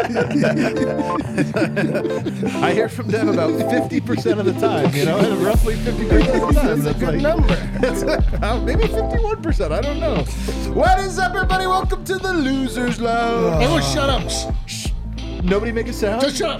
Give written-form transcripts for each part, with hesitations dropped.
I hear from Dev about 50% of the time, and roughly 50% of the time. That's a good number. Maybe 51%. I don't know. What is up, everybody? Welcome to the Losers Lounge. Everyone shut up. Shh. Nobody make a sound? Just shut up.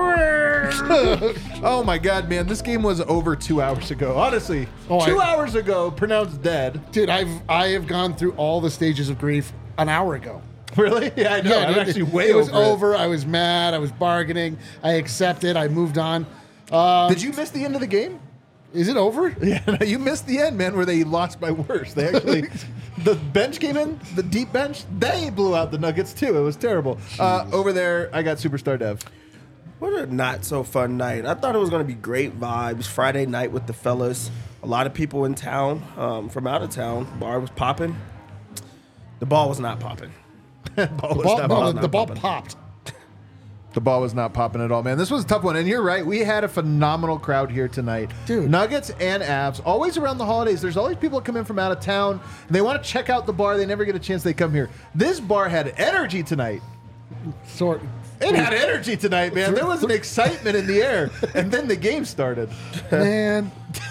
Oh my God, man. This game was over 2 hours ago. Honestly, 2 hours ago, pronounced dead. Dude, I have gone through all the stages of grief an hour ago. Really? Yeah, I know. I'm actually way over. It was over. I was mad. I was bargaining. I accepted. I moved on. Did you miss the end of the game? Is it over? Yeah, no, you missed the end, man, where they lost by worse. They actually, the bench came in, the deep bench, they blew out the Nuggets too. It was terrible. Over there, I got Superstar Dev. What a not so fun night. I thought it was going to be great vibes. Friday night with the fellas. A lot of people in town from out of town. Bar was popping. The ball was not popping. The ball popped. The ball was not popping at all, man. This was a tough one. And you're right. We had a phenomenal crowd here tonight. Dude. Nuggets and Avs. Always around the holidays, there's always people that come in from out of town, and they want to check out the bar. They never get a chance. They come here. This bar had energy tonight. It had energy tonight, man. There was an excitement in the air. And then the game started. Man.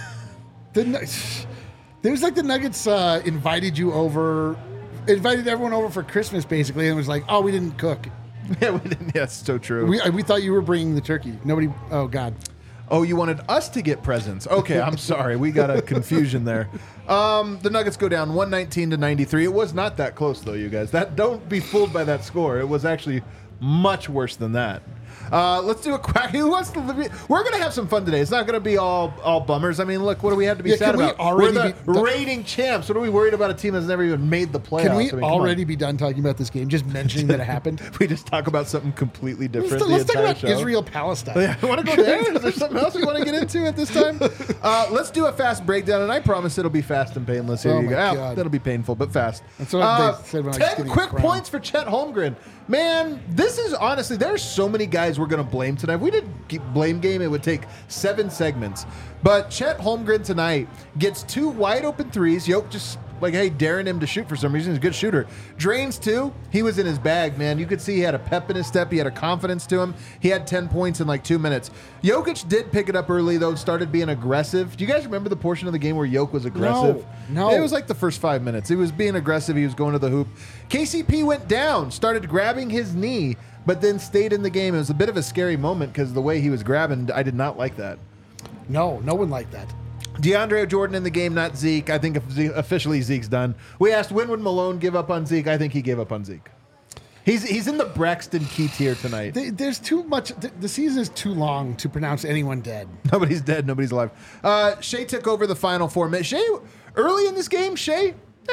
It was like the Nuggets invited everyone over for Christmas, basically, and was like, oh, we didn't cook. Yeah, we didn't. Yeah, it's so true. We thought you were bringing the turkey. Nobody. Oh God. Oh, you wanted us to get presents. Okay, I'm sorry. We got a confusion there. The Nuggets go down 119-93. It was not that close, though, you guys. Don't be fooled by that score. It was actually much worse than that. Let's do a quack. We're going to have some fun today. It's not going to be all bummers. I mean, look, what do we have to be sad about? We're the reigning champs. What are we worried about? A team that's never even made the playoffs? Can we already be done talking about this game? Just mentioning that it happened? We just talk about something completely different. Let's talk about Israel-Palestine. Yeah, I want to go there. Is there something else we want to get into at this time? Let's do a fast breakdown, and I promise it'll be fast and painless. Here you go. God. That'll be painful, but fast. That's what they said when I was 10 quick points for Chet Holmgren. Man, this is honestly, there's so many guys we're going to blame tonight. If we did blame game, it would take 7 segments. But Chet Holmgren tonight gets 2 wide open threes. Yoke just daring him to shoot for some reason. He's a good shooter. Drains 2. He was in his bag, man. You could see he had a pep in his step. He had a confidence to him. He had 10 points in 2 minutes. Jokic did pick it up early, though, started being aggressive. Do you guys remember the portion of the game where Jokic was aggressive? No. It was like the first 5 minutes. He was being aggressive. He was going to the hoop. KCP went down, started grabbing his knee, but then stayed in the game. It was a bit of a scary moment because the way he was grabbing, I did not like that. No one liked that. DeAndre Jordan in the game, not Zeke. I think officially Zeke's done. We asked when would Malone give up on Zeke. I think he gave up on Zeke. He's in the Braxton Key tier tonight. There's too much. The season is too long to pronounce anyone dead. Nobody's dead. Nobody's alive. Shea took over the final 4 minutes. Shea, early in this game, he's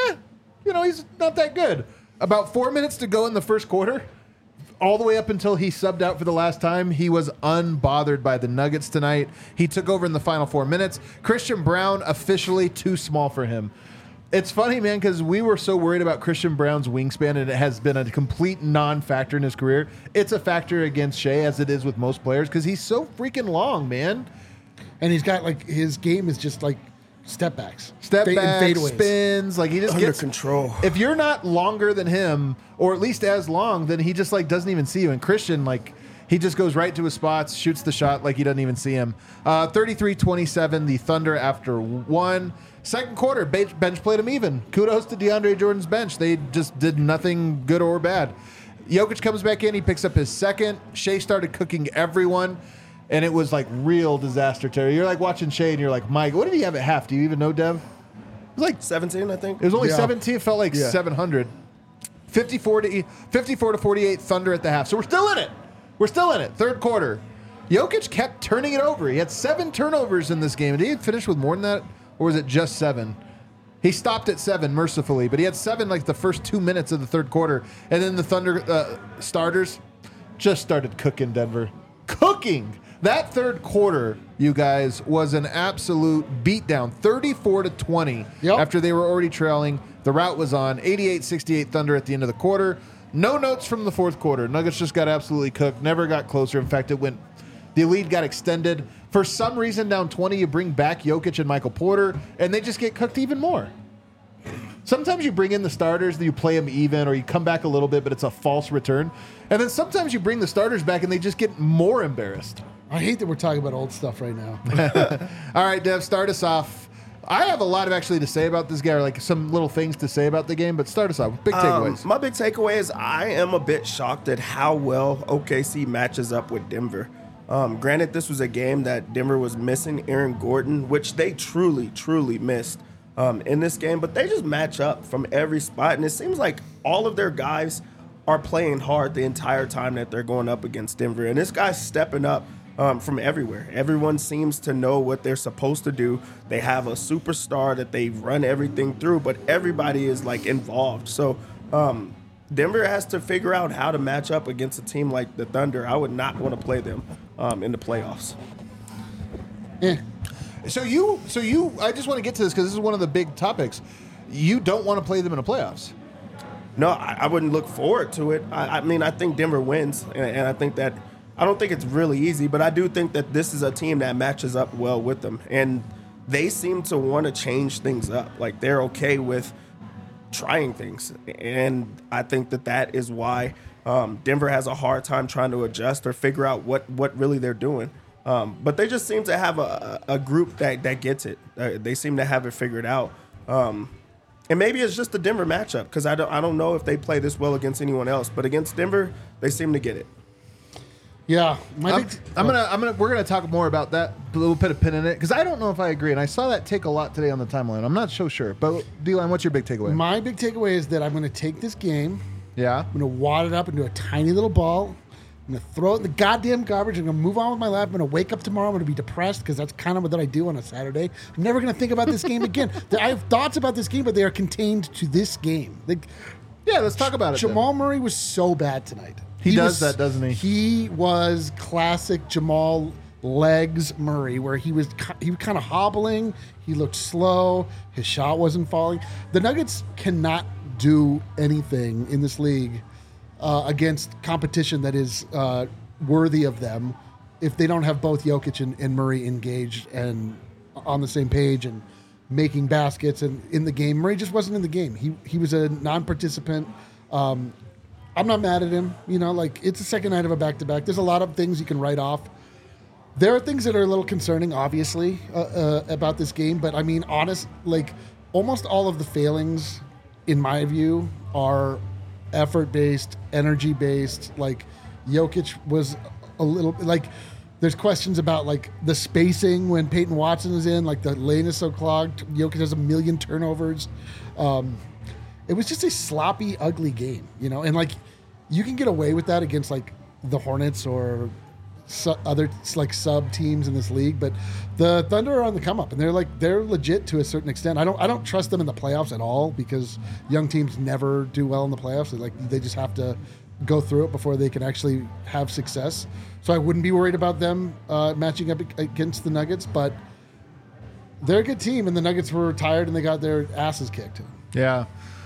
not that good. About 4 minutes to go in the first quarter. All the way up until he subbed out for the last time, he was unbothered by the Nuggets tonight. He took over in the final 4 minutes. Christian Braun, officially too small for him. It's funny, man, because we were so worried about Christian Braun's wingspan, and it has been a complete non-factor in his career. It's a factor against Shea, as it is with most players, because he's so freaking long, man. And he's got, his game is just step backs, fadeaways, spins. He just under gets control. If you're not longer than him, or at least as long, then he just doesn't even see you. And Christian, he just goes right to his spots, shoots the shot like he doesn't even see him. 33-27, the Thunder after 1. Second quarter, bench played him even. Kudos to DeAndre Jordan's bench. They just did nothing good or bad. Jokic comes back in. He picks up his second. Shea started cooking everyone. And it was real disaster, Terry. You're watching Shea and you're like, Mike, what did he have at half? Do you even know, Dev? It was 17, I think. It was only 17. It felt like 700. 54-48 Thunder at the half. So we're still in it. Third quarter. Jokic kept turning it over. He had 7 turnovers in this game. Did he finish with more than that? Or was it just 7? He stopped at 7, mercifully. But he had 7 the first 2 minutes of the third quarter. And then the Thunder starters just started cooking Denver. Cooking! That third quarter, you guys, was an absolute beatdown. 34-20 after they were already trailing. The route was on. 88-68 Thunder at the end of the quarter. No notes from the fourth quarter. Nuggets just got absolutely cooked. Never got closer. In fact, the lead got extended. For some reason, down 20, you bring back Jokic and Michael Porter, and they just get cooked even more. Sometimes you bring in the starters, and you play them even, or you come back a little bit, but it's a false return. And then sometimes you bring the starters back, and they just get more embarrassed. I hate that we're talking about old stuff right now. All right, Dev, start us off. I have a lot of actually to say about this guy, or like some little things to say about the game, but start us off with big takeaways. My big takeaway is I am a bit shocked at how well OKC matches up with Denver. Granted, this was a game that Denver was missing Aaron Gordon, which they truly, truly missed in this game, but they just match up from every spot, and it seems like all of their guys are playing hard the entire time that they're going up against Denver, and this guy's stepping up from everywhere. Everyone seems to know what they're supposed to do. They have a superstar that they run everything through, but everybody is like involved. So Denver has to figure out how to match up against a team like the Thunder. I would not want to play them in the playoffs. Yeah. So you, I just want to get to this because this is one of the big topics. You don't want to play them in the playoffs. No, I wouldn't look forward to it. I mean, I think Denver wins, and I think that I don't think it's really easy, but I do think that this is a team that matches up well with them, and they seem to want to change things up. Like, they're okay with trying things, and I think that is why Denver has a hard time trying to adjust or figure out what really they're doing. But they just seem to have a group that gets it. They seem to have it figured out. And maybe it's just the Denver matchup, because I don't know if they play this well against anyone else, but against Denver, they seem to get it. Yeah, we're gonna talk more about that. We'll put a pin in it because I don't know if I agree, and I saw that take a lot today on the timeline. I'm not so sure, but D-Line, what's your big takeaway? My big takeaway is that I'm going to take this game. Yeah, I'm going to wad it up into a tiny little ball. I'm going to throw it in the goddamn garbage. I'm going to move on with my life. I'm going to wake up tomorrow. I'm going to be depressed because that's kind of what I do on a Saturday. I'm never going to think about this game again. I have thoughts about this game, but they are contained to this game. Yeah, let's talk about it. Jamal Murray was so bad tonight. He does that, doesn't he? He was classic Jamal legs Murray, where he was kind of hobbling. He looked slow. His shot wasn't falling. The Nuggets cannot do anything in this league against competition that is worthy of them if they don't have both Jokic and Murray engaged and on the same page and making baskets and in the game. Murray just wasn't in the game. He was a non-participant. I'm not mad at him. You know, like, it's the second night of a back-to-back. There's a lot of things you can write off. There are things that are a little concerning, obviously, about this game. But, I mean, almost all of the failings, in my view, are effort-based, energy-based. Like, Jokic was a little, like, there's questions about, like, the spacing when Peyton Watson is in. Like, the lane is so clogged. Jokic has a million turnovers. It was just a sloppy, ugly game, you know? And, like, you can get away with that against, like, the Hornets or other, like, sub teams in this league, but the Thunder are on the come up, and they're legit to a certain extent. I don't trust them in the playoffs at all, because young teams never do well in the playoffs. They just have to go through it before they can actually have success. So I wouldn't be worried about them matching up against the Nuggets, but they're a good team, and the Nuggets were tired, and they got their asses kicked. Yeah.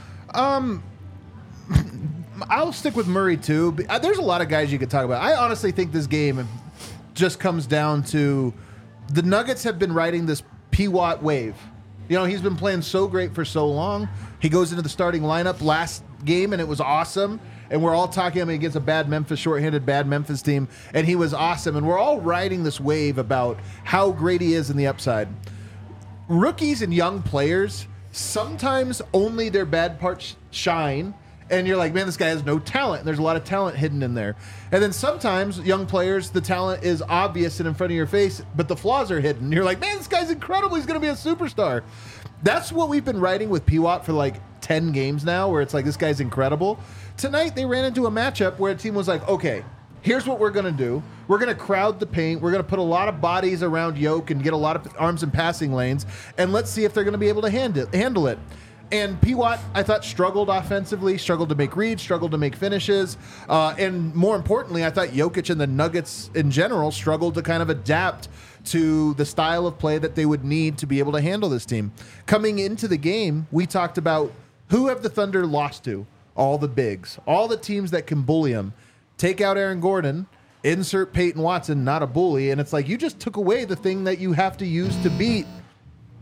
I'll stick with Murray too. There's a lot of guys you could talk about. I honestly think this game just comes down to the Nuggets have been riding this P-Watt wave. You know, he's been playing so great for so long. He goes into the starting lineup last game, and it was awesome. And we're all talking against a shorthanded bad Memphis team, and he was awesome. And we're all riding this wave about how great he is in the upside. Rookies and young players, sometimes only their bad parts shine, and you're like, man, this guy has no talent. And there's a lot of talent hidden in there. And then sometimes young players, the talent is obvious and in front of your face, but the flaws are hidden. You're like, man, this guy's incredible. He's going to be a superstar. That's what we've been writing with P-Watt for like 10 games now, where it's like, this guy's incredible. Tonight, they ran into a matchup where a team was like, okay, here's what we're going to do. We're going to crowd the paint. We're going to put a lot of bodies around Yoke and get a lot of arms and passing lanes, and let's see if they're going to be able to handle it. And P-Watt, I thought, struggled offensively, struggled to make reads, struggled to make finishes. And more importantly, I thought Jokic and the Nuggets in general struggled to kind of adapt to the style of play that they would need to be able to handle this team. Coming into the game, we talked about who have the Thunder lost to? All the bigs, all the teams that can bully them. Take out Aaron Gordon, insert Peyton Watson, not a bully. And it's like, you just took away the thing that you have to use to beat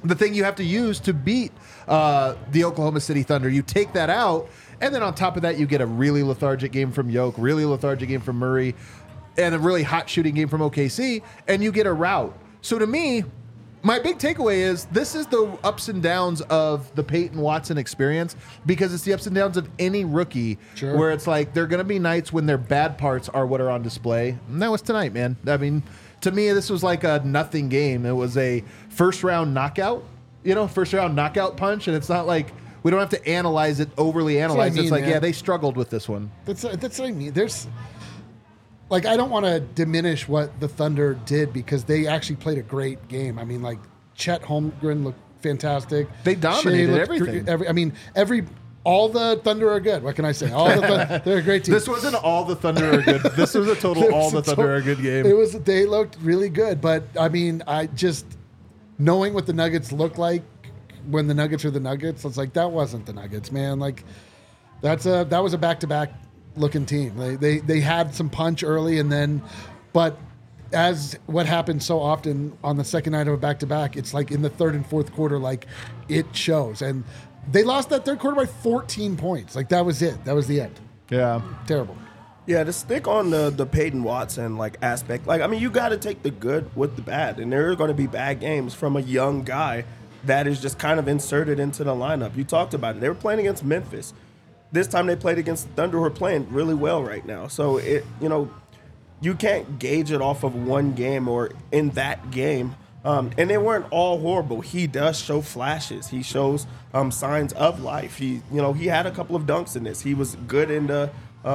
the thing you have to use to beat the Oklahoma City Thunder. You take that out, and then on top of that, you get a really lethargic game from Yoke, really lethargic game from Murray, and a really hot shooting game from OKC, and you get a rout. So to me, my big takeaway is this is the ups and downs of the Peyton Watson experience, because it's the ups and downs of any rookie, Sure. where it's like there are going to be nights when their bad parts are what are on display. And that was tonight, man. I mean, to me, this was like a nothing game. It was a first-round knockout, first-round knockout punch, and it's not like we don't have to analyze it, overly analyze it. mean, It's like, man. yeah, they struggled with this one. That's what I mean. There's like, I don't want to diminish what the Thunder did, because they actually played a great game. I mean, like, Chet Holmgren looked fantastic. They dominated Shea looked everything. all the Thunder are good. What can I say? They're a great team. This wasn't all the Thunder are good. This was a total all the Thunder are good game. They looked really good, but I mean, I just knowing what the Nuggets look like when the Nuggets are the Nuggets, it's like that wasn't the Nuggets, man. Like that was a back-to-back looking team. They had some punch early, and then, but as what happens so often on the second night of a back-to-back, it's like in the third and fourth quarter, like it shows. And they lost that third quarter by 14 points. Like that was it. That was the end. Yeah. Terrible. Yeah, to stick on the Peyton Watson aspect, I mean, you got to take the good with the bad, and there are going to be bad games from a young guy that is just kind of inserted into the lineup. You talked about it; they were playing against Memphis. This time they played against the Thunder, who are playing really well right now. So you can't gauge it off of one game or in that game. And they weren't all horrible. He does show flashes. He shows signs of life. He had a couple of dunks in this. He was good in the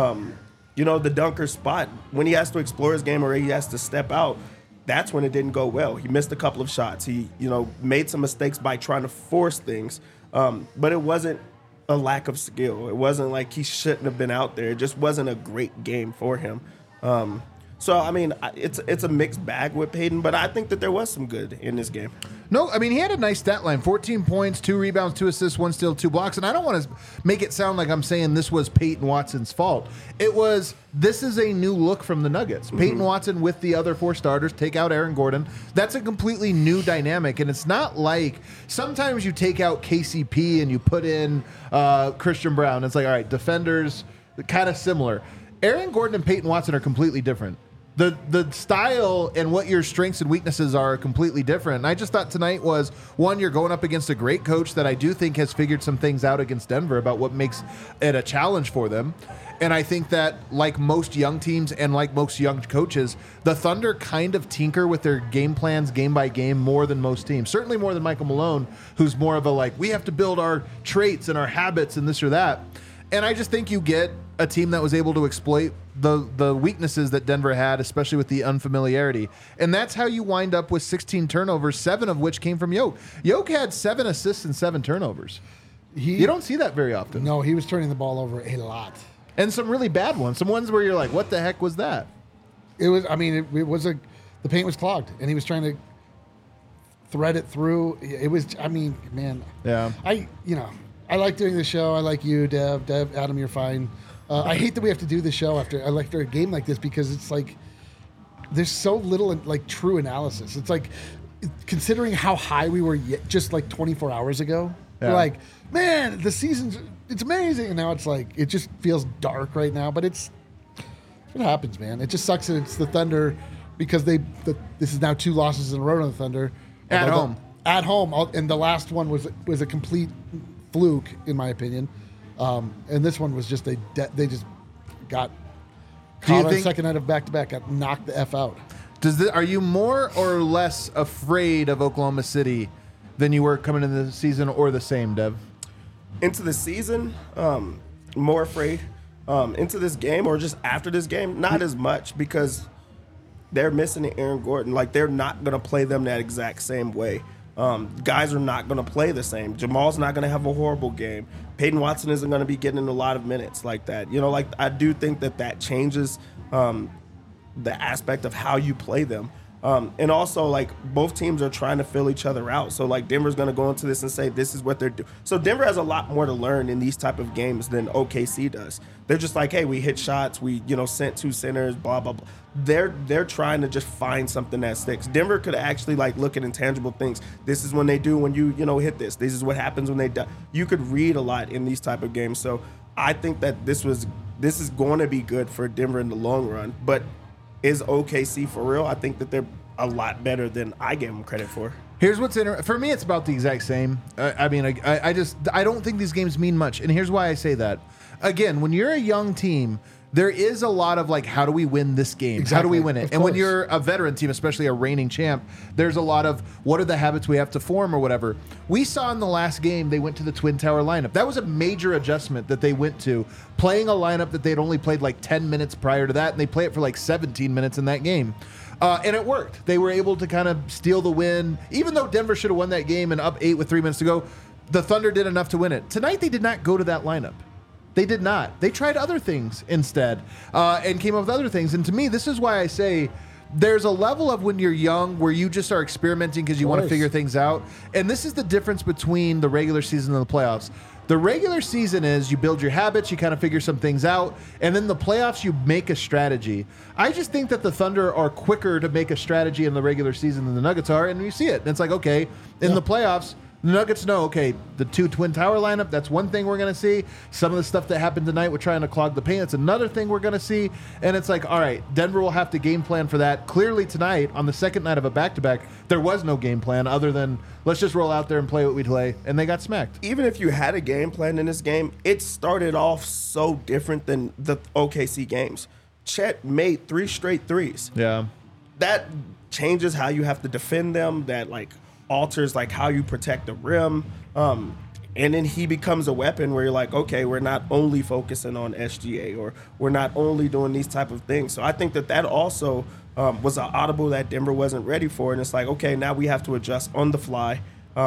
the dunker spot. When he has to explore his game or he has to step out, that's when it didn't go well. He missed a couple of shots. He made some mistakes by trying to force things. But it wasn't a lack of skill. It wasn't like he shouldn't have been out there. It just wasn't a great game for him. So, I mean, it's a mixed bag with Peyton, but I think that there was some good in this game. No, I mean, he had a nice stat line, 14 points, 2 rebounds, 2 assists, 1 steal, 2 blocks. And I don't want to make it sound like I'm saying this was Peyton Watson's fault. This is a new look from the Nuggets. Mm-hmm. Peyton Watson with the other 4 starters, take out Aaron Gordon. That's a completely new dynamic. And it's not like sometimes you take out KCP and you put in Christian Brown. It's like, all right, defenders, kind of similar. Aaron Gordon and Peyton Watson are completely different. The style and what your strengths and weaknesses are completely different. And I just thought tonight was, one, you're going up against a great coach that I do think has figured some things out against Denver about what makes it a challenge for them. And I think that, like most young teams and like most young coaches, the Thunder kind of tinker with their game plans game by game more than most teams. Certainly more than Michael Malone, who's more of a we have to build our traits and our habits and this or that. And I just think you get a team that was able to exploit the weaknesses that Denver had, especially with the unfamiliarity. And that's how you wind up with 16 turnovers, 7 of which came from Yoke. Yoke had 7 assists and 7 turnovers. You don't see that very often. No, he was turning the ball over a lot. And some really bad ones. Some ones where you're like, what the heck was that? It was, I mean, the paint was clogged, and he was trying to thread it through. It was, I mean, man. Yeah. I like doing the show. I like you, Dev. Adam, you're fine. I hate that we have to do the show after a game like this, because it's like there's so little true analysis. It's like, considering how high we were just 24 hours ago, we're like, man, the it's amazing. And now it's like, it just feels dark right now, but it's what happens, man. It just sucks that it's the Thunder, because this is now 2 losses in a row to the Thunder. At home. At home. And the last one was a complete fluke, in my opinion. And this one was just they just got caught on the second night of back-to-back, got knocked the F out. Are you more or less afraid of Oklahoma City than you were coming into the season, or the same, Dev? Into the season, more afraid. Into this game, or just after this game, not as much, because they're missing Aaron Gordon. They're not going to play them that exact same way. Guys are not going to play the same. Jamal's not going to have a horrible game. Peyton Watson isn't going to be getting a lot of minutes like that. I do think that changes the aspect of how you play them. And also, like, both teams are trying to fill each other out. So, like, Denver's going to go into this and say, this is what they're doing. So, Denver has a lot more to learn in these type of games than OKC does. They're just like, hey, we hit shots. We, sent 2 centers, blah, blah, blah. They're trying to just find something that sticks. Denver could actually, like, look at intangible things. This is when they do when you hit this. This is what happens when they die. You could read a lot in these type of games. So, I think that this is going to be good for Denver in the long run. But is OKC for real? I think that they're a lot better than I gave them credit for. Here's what's interesting. For me, it's about the exact same. I don't think these games mean much. And here's why I say that. Again, when you're a young team, there is a lot of like, how do we win this game? Exactly. How do we win it? Of And when course. you're a veteran team, especially a reigning champ, there's a lot of what are the habits we have to form or whatever. We saw in the last game, they went to the Twin Tower lineup. That was a major adjustment that they went to, playing a lineup that they'd only played like 10 minutes prior to that, and they play it for like 17 minutes in that game. And it worked. They were able to kind of steal the win. Even though Denver should have won that game and up 8 with 3 minutes to go, the Thunder did enough to win it. Tonight, they did not go to that lineup. They did not. They tried other things instead and came up with other things. And to me, this is why I say there's a level of when you're young where you just are experimenting because you want to figure things out. And this is the difference between the regular season and the playoffs. The regular season is you build your habits, you kind of figure some things out, and then the playoffs, you make a strategy. I just think that the Thunder are quicker to make a strategy in the regular season than the Nuggets are, and you see it. And it's like, okay, in the playoffs, the Nuggets know, okay, the 2 Twin Tower lineup, that's one thing we're going to see. Some of the stuff that happened tonight with trying to clog the paint, that's another thing we're going to see. And it's like, all right, Denver will have to game plan for that. Clearly tonight, on the second night of a back-to-back, there was no game plan other than let's just roll out there and play what we play, and they got smacked. Even if you had a game plan in this game, it started off so different than the OKC games. Chet made 3 straight threes. Yeah. That changes how you have to defend them. That, like, alters like how you protect the rim, and then he becomes a weapon where you're like, okay, we're not only focusing on SGA or we're not only doing these type of things. So I think that also was an audible that Denver wasn't ready for, and it's like, okay, now we have to adjust on the fly,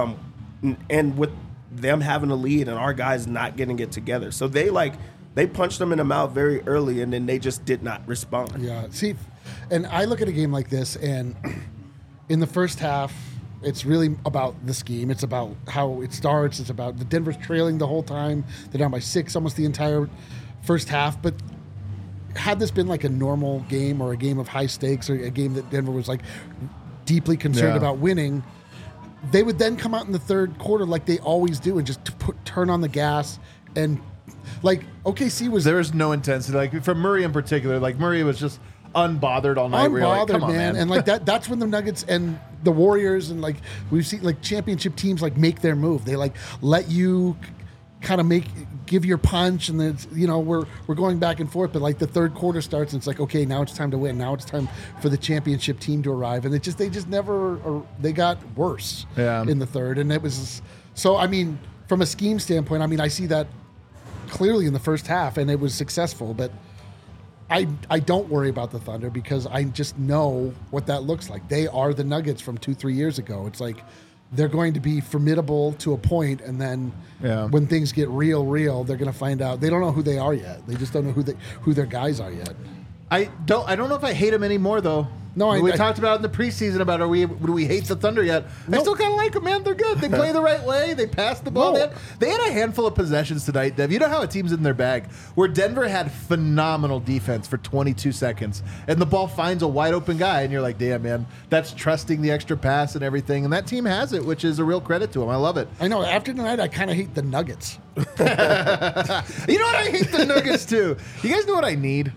and with them having a lead and our guys not getting it together. So they punched them in the mouth very early, and then they just did not respond. Yeah. See, and I look at a game like this, and in the first half, it's really about the scheme. It's about how it starts. It's about the Denver's trailing the whole time. They're down by 6 almost the entire first half. But had this been like a normal game or a game of high stakes or a game that Denver was like deeply concerned about winning, they would then come out in the third quarter like they always do and just turn on the gas. And like OKC was... There was no intensity. Like for Murray in particular, like Murray was just unbothered all night. Unbothered, like, come on, man. And like that's when the Nuggets and the Warriors and like we've seen like championship teams like make their move. They like let you kind of give your punch, and then we're going back and forth. But like the third quarter starts, and it's like, okay, now it's time to win. Now it's time for the championship team to arrive, and they just never they got worse in the third, and it was so. I mean, from a scheme standpoint, I mean, I see that clearly in the first half, and it was successful, but. I don't worry about the Thunder because I just know what that looks like. They are the Nuggets from 2-3 years ago. It's like they're going to be formidable to a point, and then when things get real, they're going to find out. They don't know who they are yet. They just don't know who their guys are yet. I don't know if I hate them anymore though. No, we talked about in the preseason about do we hate the Thunder yet? I still kind of like them, man. They're good. They play the right way. They pass the ball. They had a handful of possessions tonight, Dev. You know how a team's in their bag where Denver had phenomenal defense for 22 seconds, and the ball finds a wide open guy, and you're like, damn, man, that's trusting the extra pass and everything. And that team has it, which is a real credit to them. I love it. I know. After tonight, I kind of hate the Nuggets. You know what? I hate the Nuggets too. You guys know what I need?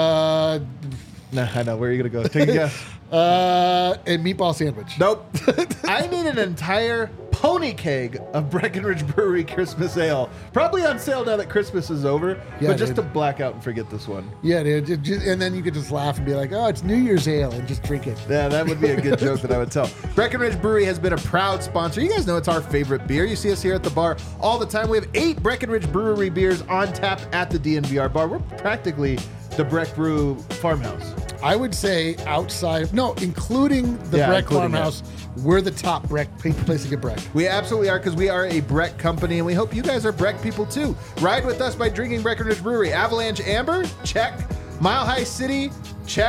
Nah, I know. Where are you going to go? Take a guess. A meatball sandwich. Nope. I need an entire pony keg of Breckenridge Brewery Christmas Ale. Probably on sale now that Christmas is over, but just to black out and forget this one. Yeah, dude. And then you could just laugh and be like, oh, it's New Year's Ale, and just drink it. Yeah, that would be a good joke that I would tell. Breckenridge Brewery has been a proud sponsor. You guys know it's our favorite beer. You see us here at the bar all the time. We have 8 Breckenridge Brewery beers on tap at the DNVR bar. We're practically the Breck Brew farmhouse. I would say including the Breck farmhouse, we're the top Breck place to get Breck. We absolutely are, because we are a Breck company, and we hope you guys are Breck people too. Ride with us by drinking Breckenridge Brewery. Avalanche Amber, check. Mile High City, check.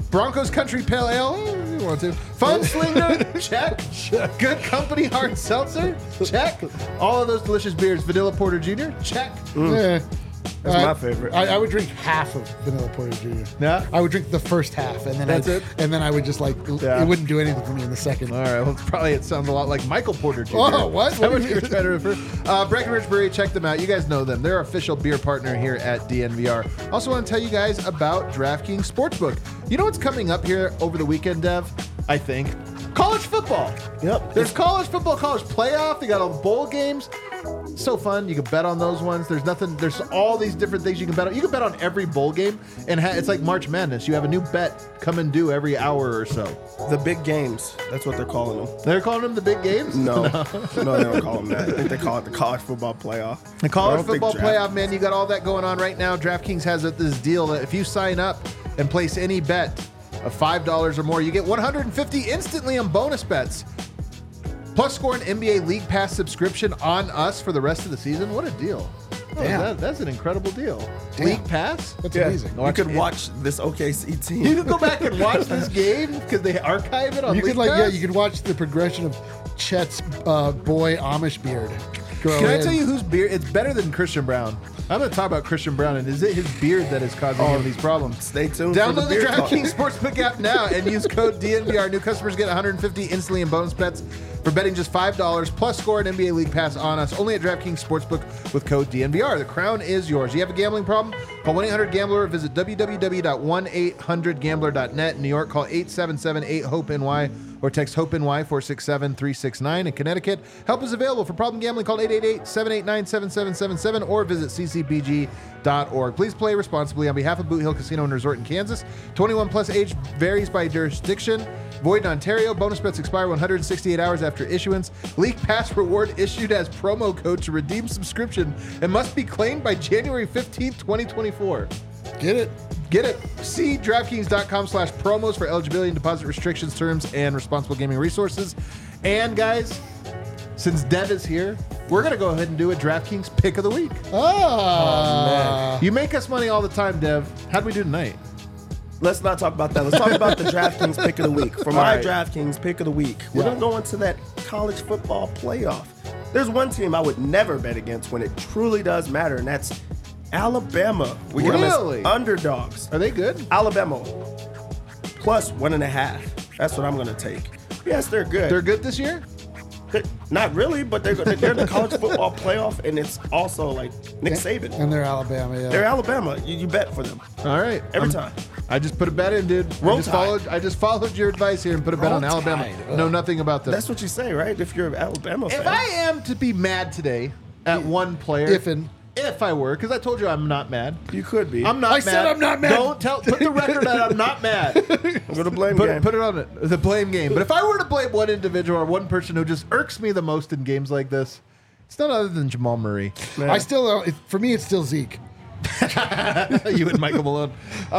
Broncos Country Pale Ale, if you want to. Fun Slinger, check. Good Company Hard Seltzer, check. All of those delicious beers. Vanilla Porter Jr., check. Yeah. That's my favorite. I would drink half of Vanilla Porter Jr. Yeah? I would drink the first half, and then That's it? And then I would just Yeah. it wouldn't do anything for me in the second. All right, well, it sounds a lot like Michael Porter Jr. Oh, what? Is that what you were trying to refer? Breckenridge Brewery, check them out. You guys know them. They're our official beer partner here at DNVR. Also want to tell you guys about DraftKings Sportsbook. You know what's coming up here over the weekend, Dev? I think. College football. Yep. There's college football, college playoff. They got all the bowl games. So fun. You can bet on those ones. There's all these different things you can bet on. You can bet on every bowl game, and it's like March Madness. You have a new bet come and due every hour or so. The big games. That's what they're calling them. They're calling them the big games? No, no, they don't call them that. I think they call it the college football playoff. The college I don't think football draft- playoff, man, you got all that going on right now. DraftKings has this deal that if you sign up and place any bet of $5 or more, you get $150 instantly on bonus bets. Plus, score an NBA League Pass subscription on us for the rest of the season. What a deal. Oh, Damn. that's an incredible deal. Damn. League Pass? That's Yeah, amazing. you could watch this OKC team. You can go back and watch this game because they archive it on You League could Pass? you could watch the progression of Chet's boy Amish beard. Can I tell you whose beard? It's better than Christian Brown. I'm going to talk about Christian Brown, and is it his beard that is causing him these problems? Stay tuned for Download the the beard talk. DraftKings Sportsbook app now and use code DNVR. New customers get $150 instantly in bonus bets for betting just $5. Plus, score an NBA League Pass on us only at DraftKings Sportsbook with code DNVR. The crown is yours. You have a gambling problem? Call 1-800-GAMBLER or visit www.1800gambler.net. In New York, call 877-8-HOPE-NY or text HOPE-NY 467-369. In Connecticut, help is available for problem gambling. Call 888-789-7777 or visit ccpg.org. Please play responsibly on behalf of Boot Hill Casino and Resort in Kansas. 21 plus age varies by jurisdiction. Void in Ontario. Bonus bets expire 168 hours after issuance. League Pass reward issued as promo code to redeem subscription and must be claimed by January 15th, 2024. Get it? Get it. See DraftKings.com/promos for eligibility and deposit restrictions, terms, and responsible gaming resources. And guys, since Dev is here, we're going to go ahead and do a DraftKings pick of the week. You make us money all the time, Dev. How'd we do tonight? Let's not talk about that. Let's talk about the DraftKings pick of the week. For my right. DraftKings pick of the week, we're going to go into that college football playoff. There's one team I would never bet against when it truly does matter, and that's Alabama. We get them Really? as underdogs. Are they good? Alabama plus 1.5. That's what I'm going to take. Yes, they're good. They're good this year? Not really, but they're in the college football playoff, and it's also like Nick Saban. And they're Alabama. Yeah. They're Alabama. You bet for them All right. every time. I just put a bet in, dude. Roll Tide. I just followed your advice here and put a bet Roll on Alabama. Tide. Know nothing about them. That's what you say, right? If you're an Alabama fan. If I am to be mad today at one player, if I were, because I told you I'm not mad. You could be. I'm not I mad. said I'm not mad. Don't put the record that I'm not mad. I'm going to blame game. Put it on it. The blame game. But if I were to blame one individual or one person who just irks me the most in games like this, it's none other than Jamal Murray. Man. I still, for me, it's still Zeke. You and Michael Malone.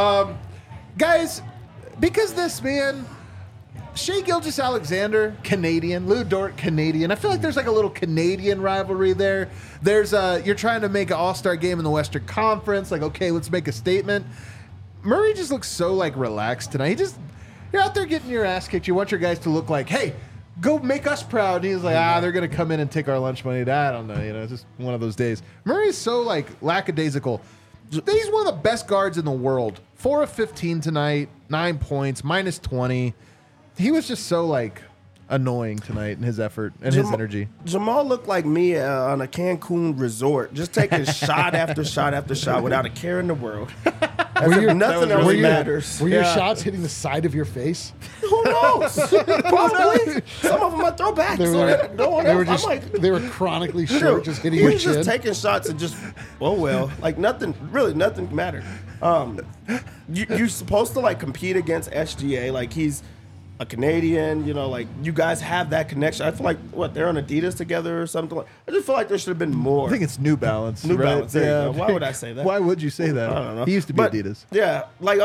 Guys, because this man, Shea Gilgeous-Alexander, Canadian. Lou Dort, Canadian. I feel like there's like a little Canadian rivalry there. There's you're trying to make an all-star game in the Western Conference. Like, okay, let's make a statement. Murray just looks so like relaxed tonight. You're out there getting your ass kicked. You want your guys to look like, hey, go make us proud. And he's like, they're going to come in and take our lunch money. I don't know. It's just one of those days. Murray's so like lackadaisical. He's one of the best guards in the world. 4 of 15 tonight, 9 points, minus 20. He was just so like annoying tonight in his effort and his energy. Jamal looked like me on a Cancun resort, just taking shot after shot after shot without a care in the world. Nothing else matters. Were your shots hitting the side of your face? Who knows? Probably. Some of them are throwbacks. They were chronically short, just hitting he your was chin. just taking shots and just, like nothing mattered. You're supposed to like compete against SGA, like he's a Canadian, like you guys have that connection. I feel like they're on Adidas together or something. I just feel like there should have been more. I think it's New Balance. New right? Balance. There you go. Why would I say that? Why would you say that? I don't know. He used to be Adidas. Yeah,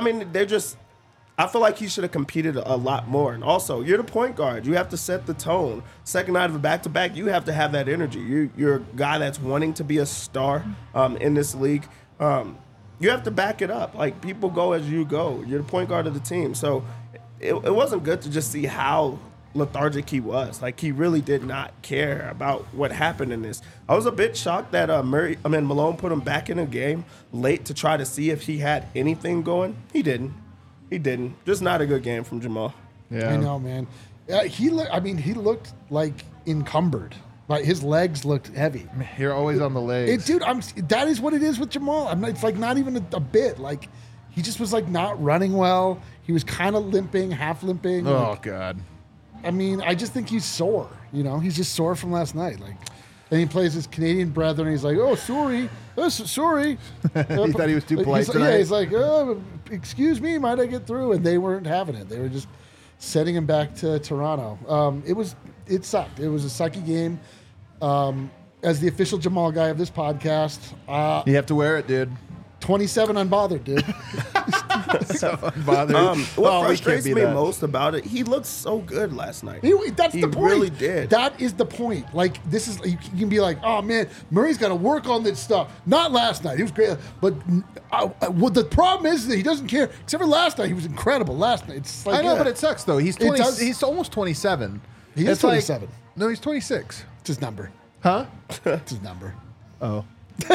I feel like he should have competed a lot more. And also, you're the point guard. You have to set the tone. Second night of a back-to-back, you have to have that energy. You're a guy that's wanting to be a star in this league. You you have to back it up. Like, people go as you go. You're the point guard of the team. So it wasn't good to just see how lethargic he was. Like, he really did not care about what happened in this. I was a bit shocked that Malone put him back in the game late to try to see if he had anything going. He didn't. Just not a good game from Jamal. Yeah. I know, man. He looked like encumbered. Like, his legs looked heavy. You're always on the legs. Dude, that is what it is with Jamal. It's like not even a bit. Like, he just was like not running well. He was kind of limping, half limping. Oh, like, God. I mean, I just think he's sore. He's just sore from last night. Like, and he plays his Canadian brethren. He's like, "Oh, sorry, sorry." He thought he was too polite tonight. Yeah, he's like, "Oh, excuse me, might I get through?" And they weren't having it. They were just sending him back to Toronto. It sucked. It was a sucky game. As the official Jamal guy of this podcast, You have to wear it, dude. 27 unbothered, dude. So unbothered. What we can't frustrates be me that. most about it, he looked so good last night. That's He the point. really did. That is the point. Like, this is, you can be like, "Oh man, Murray's got to work on this stuff." Not last night. He was great, but the problem is that he doesn't care. Except for last night, he was incredible. Last night, it's like, I know, but it sucks though. He's 20, does. he's almost 27. He is It's like- 27. no, he's 26. It's his number. Huh? It's his number. Oh.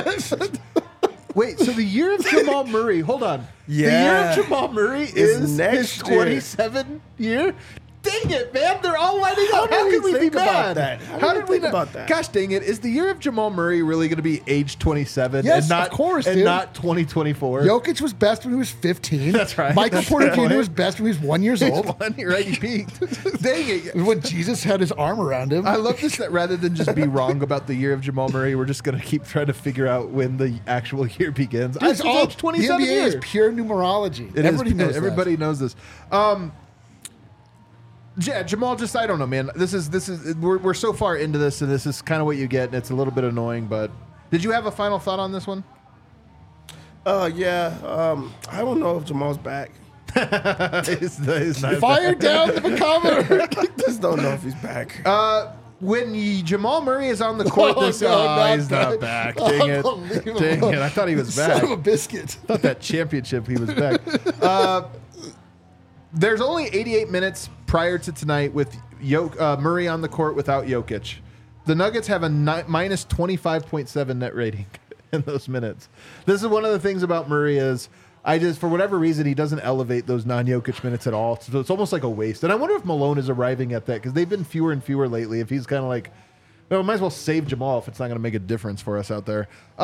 Wait, so the year of Jamal Murray, hold on. Yeah. The year of Jamal Murray is next his year. 27 year? Dang it, man. They're all lining up. How How did could we we be think about mad? that? How did we think not? about that? Gosh dang it. Is the year of Jamal Murray really going to be age 27 Yes, and not, of course, and dude. not 2024? Jokic was best when he was 15. That's right. Michael That's Porter the point. Jr. was best when he was 1 year He's old. one, right? He peaked. Dang it. When Jesus had his arm around him. I love this that rather than just be wrong about the year of Jamal Murray, we're just going to keep trying to figure out when the actual year begins. Dude, it's It's all age 27 the NBA years. is pure numerology. It is. Everybody knows that. Everybody knows this. Yeah, Jamal. Just I don't know, man. This is we're so far into this, and this is kind of what you get, and it's a little bit annoying. But did you have a final thought on this one? Yeah. I don't know if Jamal's back. He's not Fire down the bacometer. Just don't know if he's back. when Jamal Murray is on the court, Oh, this no, not he's not back. Dang it! Unbelievable. Dang it! I thought he was back. Son of a biscuit. Thought that championship he was back. There's only 88 minutes prior to tonight with Murray on the court without Jokic. The Nuggets have a minus 25.7 net rating in those minutes. This is one of the things about Murray is for whatever reason, he doesn't elevate those non-Jokic minutes at all. So it's almost like a waste. And I wonder if Malone is arriving at that because they've been fewer and fewer lately. If he's kind of like, well, might as well save Jamal if it's not going to make a difference for us out there.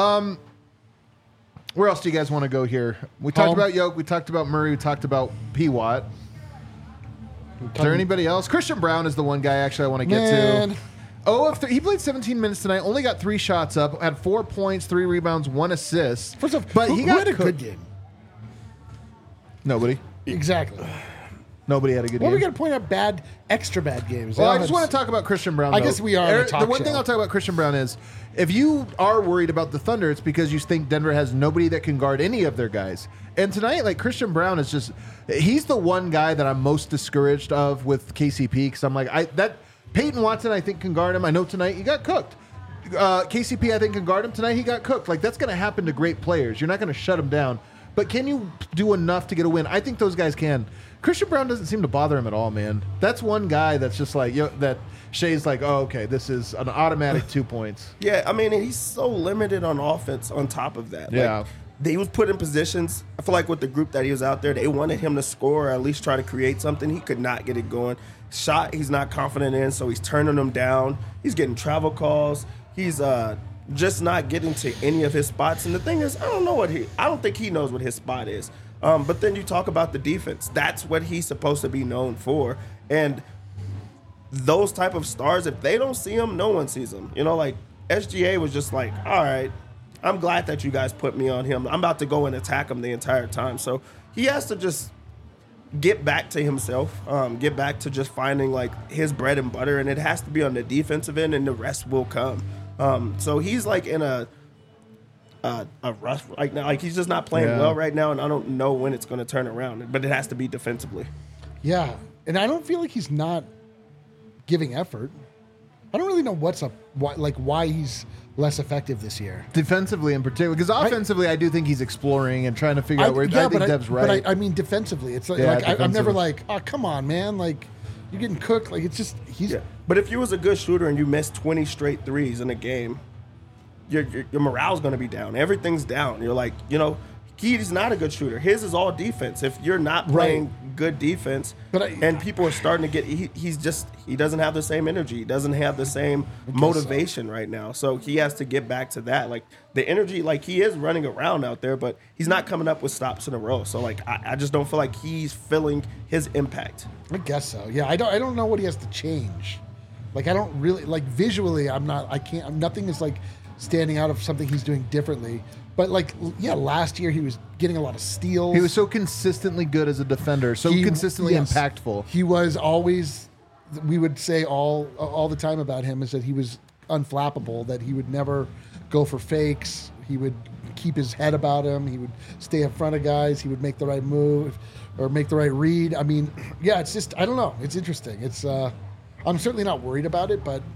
Where else do you guys want to go here? We talked Home. about Yoke. We talked about Murray. We talked about P. Watt. Is there anybody else? Christian Brown is the one guy actually I want to get Man. to. Oh, he played 17 minutes tonight. Only got 3 shots up. Had 4 points, 3 rebounds, 1 assist. First off, but who he got had a good cooked. game? Nobody. Exactly. Nobody had a good Well, we game. got to point out extra bad games. Well, I just want to talk about Christian Brown. I though. guess we are on a The talk one thing show. I'll talk about Christian Brown is if you are worried about the Thunder, it's because you think Denver has nobody that can guard any of their guys. And tonight, like Christian Brown is he's the one guy that I'm most discouraged of with KCP because I'm like, Peyton Watson, I think, can guard him. I know tonight he got cooked. KCP, I think, can guard him. Tonight he got cooked. Like, that's going to happen to great players. You're not going to shut him down. But can you do enough to get a win? I think those guys can. Christian Brown doesn't seem to bother him at all, man. That's one guy that's just like, that Shea's like, oh, okay, this is an automatic 2 points. Yeah, I mean, and he's so limited on offense on top of that. Yeah. Like, he was put in positions, I feel like with the group that he was out there, they wanted him to score or at least try to create something. He could not get it going. Shot he's not confident in, so he's turning them down. He's getting travel calls. He's just not getting to any of his spots. And the thing is, I don't think he knows what his spot is. But then you talk about the defense. That's what he's supposed to be known for. And those type of stars, if they don't see him, no one sees him. Like SGA was just like, all right, I'm glad that you guys put me on him. I'm about to go and attack him the entire time. So he has to just get back to himself, get back to just finding like his bread and butter, and it has to be on the defensive end, and the rest will come. So he's like in a rush right now. Like he's just not playing well right now, and I don't know when it's going to turn around. But it has to be defensively. Yeah, and I don't feel like he's not giving effort. I don't really know why he's less effective this year. Defensively in particular, because offensively I do think he's exploring and trying to figure out where. I think Dev's right. But I mean defensively, it's like, I'm never like, oh come on, man, like you're getting cooked. Like it's just he's. Yeah. But if you was a good shooter and you missed 20 straight threes in a game, your morale's going to be down. Everything's down. You're like, he's not a good shooter. His is all defense. If you're not playing good defense, and people are starting to get, he doesn't have the same energy. He doesn't have the same motivation right now. So he has to get back to that. Like the energy, like he is running around out there, but he's not coming up with stops in a row. So like I just don't feel like he's feeling his impact. I guess so. Yeah, I don't know what he has to change. Like I don't really like visually. Nothing is like standing out of something he's doing differently. But last year he was getting a lot of steals. He was so consistently good as a defender, consistently impactful. He was always, we would say all the time about him is that he was unflappable, that he would never go for fakes. He would keep his head about him. He would stay in front of guys. He would make the right move or make the right read. I mean, yeah, it's just, I don't know. It's interesting. It's, I'm certainly not worried about it, but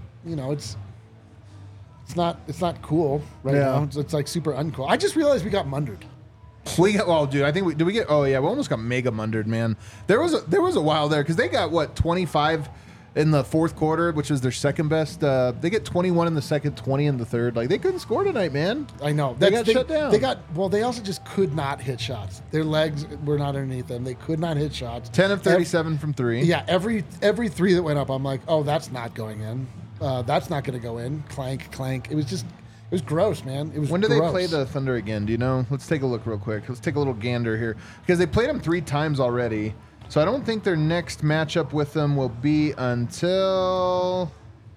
it's not cool right now. It's like super uncool. I just realized we got mundered. Dude, I think we almost got mega mundered, man. There was a while there because they got 25 in the fourth quarter, which is their second best. They get 21 in the second, 20 in the third. Like they couldn't score tonight, man. I know. They got shut down. They also just could not hit shots. Their legs were not underneath them. They could not hit shots. 10 of 37 from three. Yeah, every three that went up, I'm like, oh, that's not going in. That's not going to go in. Clank, clank. It was gross, man. It was. When do they play the Thunder again? Do you know? Let's take a look real quick. Let's take a little gander here because they played them 3 times already. So I don't think their next matchup with them will be until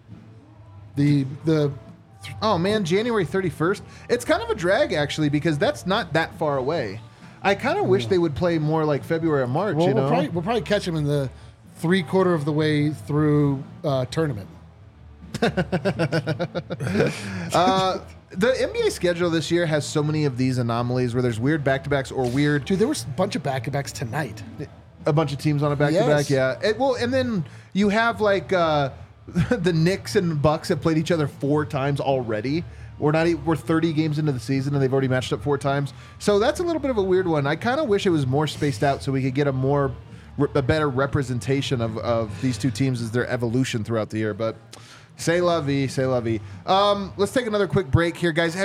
January 31st. It's kind of a drag actually because that's not that far away. I kind of wish they would play more like February or March. Well, we'll probably catch them in the 3/4 of the way through tournament. The NBA schedule this year has so many of these anomalies where there's weird back-to-backs or weird. Dude, there was a bunch of back-to-backs tonight. A bunch of teams on a back-to-back, yeah. And then you have like the Knicks and Bucks have played each other 4 times already. We're 30 games into the season and they've already matched up 4 times. So that's a little bit of a weird one. I kind of wish it was more spaced out so we could get a better representation of these two teams as their evolution throughout the year. But c'est la vie, c'est la vie. Let's take another quick break here, guys.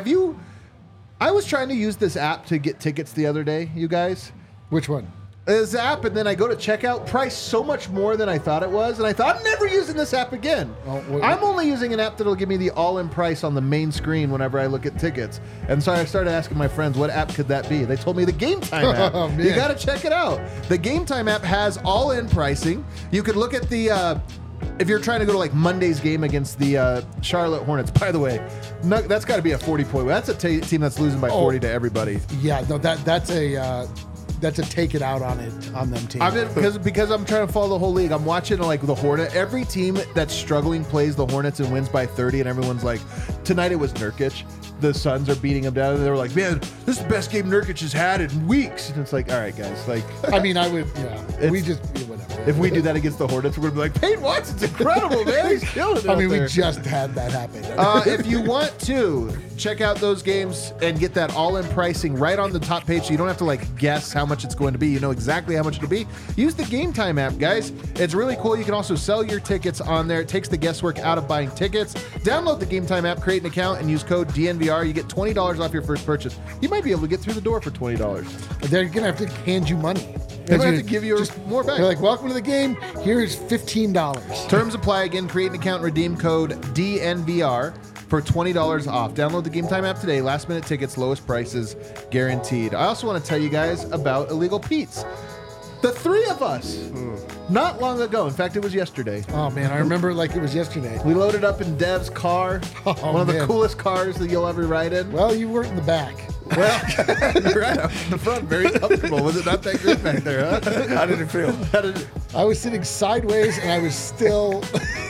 I was trying to use this app to get tickets the other day, you guys. Which one? This app, and then I go to checkout, price so much more than I thought it was, and I thought, I'm never using this app again. I'm only using an app that'll give me the all-in price on the main screen whenever I look at tickets. And so I started asking my friends, what app could that be? They told me the Game Time app. Oh, man. You got to check it out. The Game Time app has all-in pricing. You could look at the... if you're trying to go to like Monday's game against the Charlotte Hornets, by the way, that's got to be a 40-point. That's a team that's losing by 40 to everybody. Yeah, no, that's a take it out on them team. Because I'm trying to follow the whole league. I'm watching like the Hornet. Every team that's struggling plays the Hornets and wins by 30, and everyone's like, tonight it was Nurkic. The Suns are beating them down, and they were like, man, this is the best game Nurkic has had in weeks. And it's like, all right, guys, like. I mean, I would, yeah. We just, whatever. If we do that against the Hornets, we're going to be like, Peyton Watson's incredible, man. He's killing it. I mean, we just had that happen. If you want to check out those games and get that all-in pricing right on the top page so you don't have to like guess how much it's going to be. You know exactly how much it'll be. Use the Game Time app, guys. It's really cool. You can also sell your tickets on there. It takes the guesswork out of buying tickets. Download the Game Time app, create an account, and use code DNVR. You get $20 off your first purchase. You might be able to get through the door for $20. They're going to have to hand you money. They're going to have to give you more back. They're like, welcome to the game. Here's $15. Terms apply. Again, create an account, redeem code DNVR for $20 off. Download the Game Time app today. Last minute tickets, lowest prices guaranteed. I also want to tell you guys about Illegal Pete's. The 3 of us, not long ago. In fact, it was yesterday. Oh, man. I remember it like it was yesterday. We loaded up in Dev's car. One of the coolest cars that you'll ever ride in. Well, you weren't in the back. Well, you're right. I was in the front, very comfortable. Was it not that great back there, huh? How did it feel? I was sitting sideways, and I was still...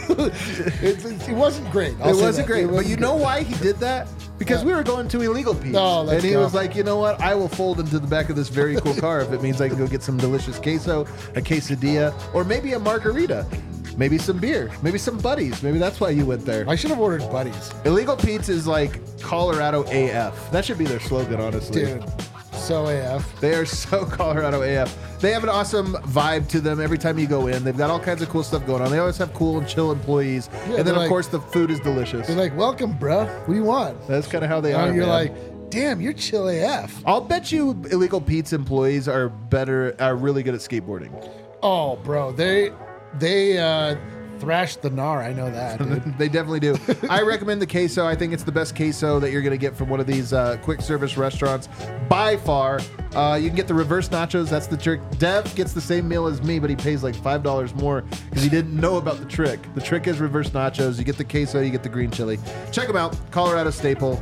it wasn't great. It wasn't great. But you know why he did that? Because we were going to Illegal Pete's. Oh, and he was like, you know what? I will fold into the back of this very cool car if it means I can go get some delicious queso, a quesadilla, or maybe a margarita. Maybe some beer. Maybe some buddies. Maybe that's why you went there. I should have ordered buddies. Illegal Pete's is like Colorado AF. That should be their slogan, honestly. Dude, so AF. They are so Colorado AF. They have an awesome vibe to them every time you go in. They've got all kinds of cool stuff going on. They always have cool and chill employees. Yeah, and then, they're of course, the food is delicious. They're like, welcome, bro. What do you want? That's kind of how they are. And you're man. like, damn, you're chill AF. I'll bet you Illegal Pete's employees are really good at skateboarding. Oh, bro. They thrashed the gnar. I know that, dude. They definitely do. I recommend the queso. I think it's the best queso that you're going to get from one of these quick service restaurants by far. You can get the reverse nachos. That's the trick. Dev gets the same meal as me, but he pays like $5 more because he didn't know about the trick. The trick is reverse nachos. You get the queso, you get the green chili. Check them out. Colorado staple.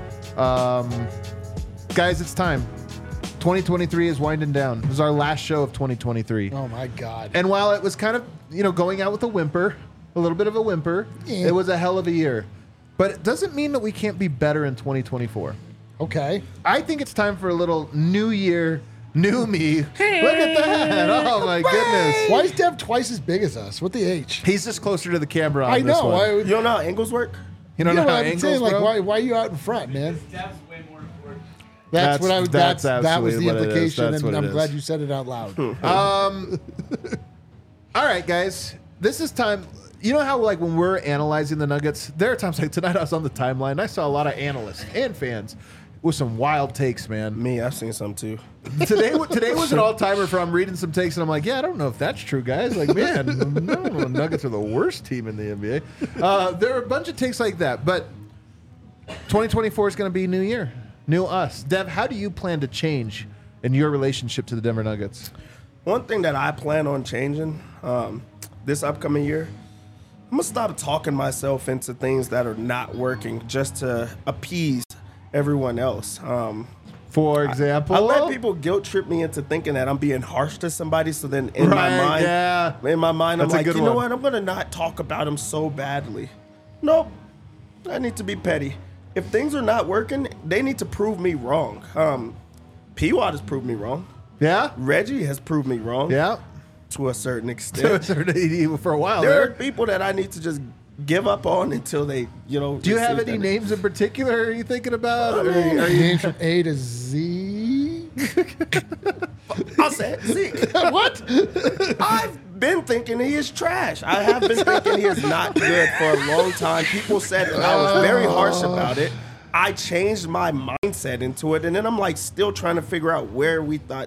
Guys, it's time. 2023 is winding down. This is our last show of 2023. Oh, my God. And while it was kind of, going out with a whimper, a little bit of a whimper, Yeah. it was a hell of a year. But it doesn't mean that we can't be better in 2024. Okay. I think it's time for a little new year, new me. Look at that. Oh, my goodness. Why is Dev twice as big as us? What the H? He's just closer to the camera on I this know. one. Why, You don't know how angles work? You don't know what how I've been angles, saying, like, bro? why are you out in front, man? Dev's way more important. That's what I was. that's That was absolutely the what it is. implication, That's what and it I'm glad is. you said it out loud. All right, guys. This is time. You know how, like, when we're analyzing the Nuggets, there are times like tonight I was on the timeline and I saw a lot of analysts and fans with some wild takes, man. Me, I've seen some too. Today was an all-timer for I'm reading some takes and I'm like, yeah, I don't know if that's true, guys. Like, man, no, the Nuggets are the worst team in the NBA. There are a bunch of takes like that, but 2024 is going to be new year, new us. Dev, how do you plan to change in your relationship to the Denver Nuggets? One thing that I plan on changing this upcoming year, I'm going to stop talking myself into things that are not working just to appease everyone else. For example, I let people guilt trip me into thinking that I'm being harsh to somebody. So then in Right, my mind, yeah. I'm That's a like, good you know one. what? I'm going to not talk about them so badly. Nope. I need to be petty. If things are not working, they need to prove me wrong. P-Watt has proved me wrong. yeah, Reggie has proved me wrong. yeah. To a certain extent. For a while There are there. people that I need to just give up on until they, Do you have any names in particular are you thinking about? Or are you, Names from A to Z. I'll say it. See, What? I've been thinking he is trash. I have been thinking he is not good for a long time. People said that I was very harsh about it. I changed my mindset into it, and then I'm like still trying to figure out where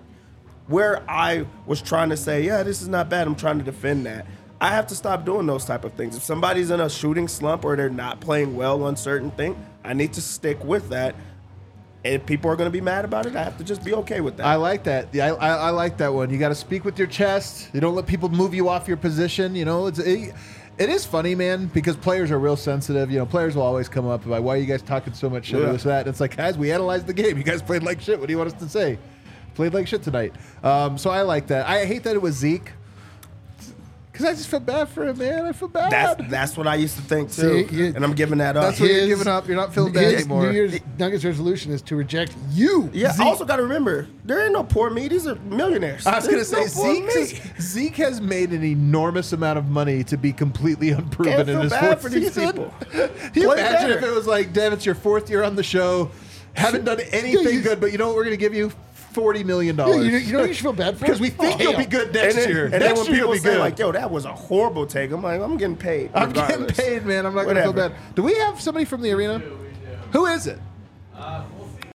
I was trying to say, yeah, this is not bad. I'm trying to defend that. I have to stop doing those type of things. If somebody's in a shooting slump or they're not playing well on certain thing, I need to stick with that. And if people are going to be mad about it, I have to just be okay with that. I like that. Yeah, I like that one. You got to speak with your chest. You don't let people move you off your position. It is funny, man, because players are real sensitive. Players will always come up about why are you guys talking so much shit Yeah. or this that. And it's like, guys, we analyzed the game. You guys played like shit. What do you want us to say? Played like shit tonight. So I like that. I hate that it was Zeke. Because I just feel bad for him, man. I feel bad. That's what I used to think too, See, and I'm giving that up. That's what you're His- giving up. You're not feeling bad His anymore. New Year's Nuggets resolution is to reject you. Yeah, Zeke. I also got to remember there ain't no poor me. These are millionaires. I was going to There's say, no poor me. Zeke has made an enormous amount of money to be completely unproven Can't in feel his bad fourth for these season. people. Can you Play imagine better. if it was like, Dev, it's your fourth year on the show, haven't done anything good, but you know what? We're going to give you $40 million. Yeah, you know what you should feel bad for? Because we think you'll be good next year. And then Next when year you'll people be say good. like, "Yo, that was a horrible take," I'm like, "I'm getting paid. I'm getting regardless." paid, man. I'm not going to feel Whatever. bad. Do we have somebody from the arena? We do. Who is it? We'll see.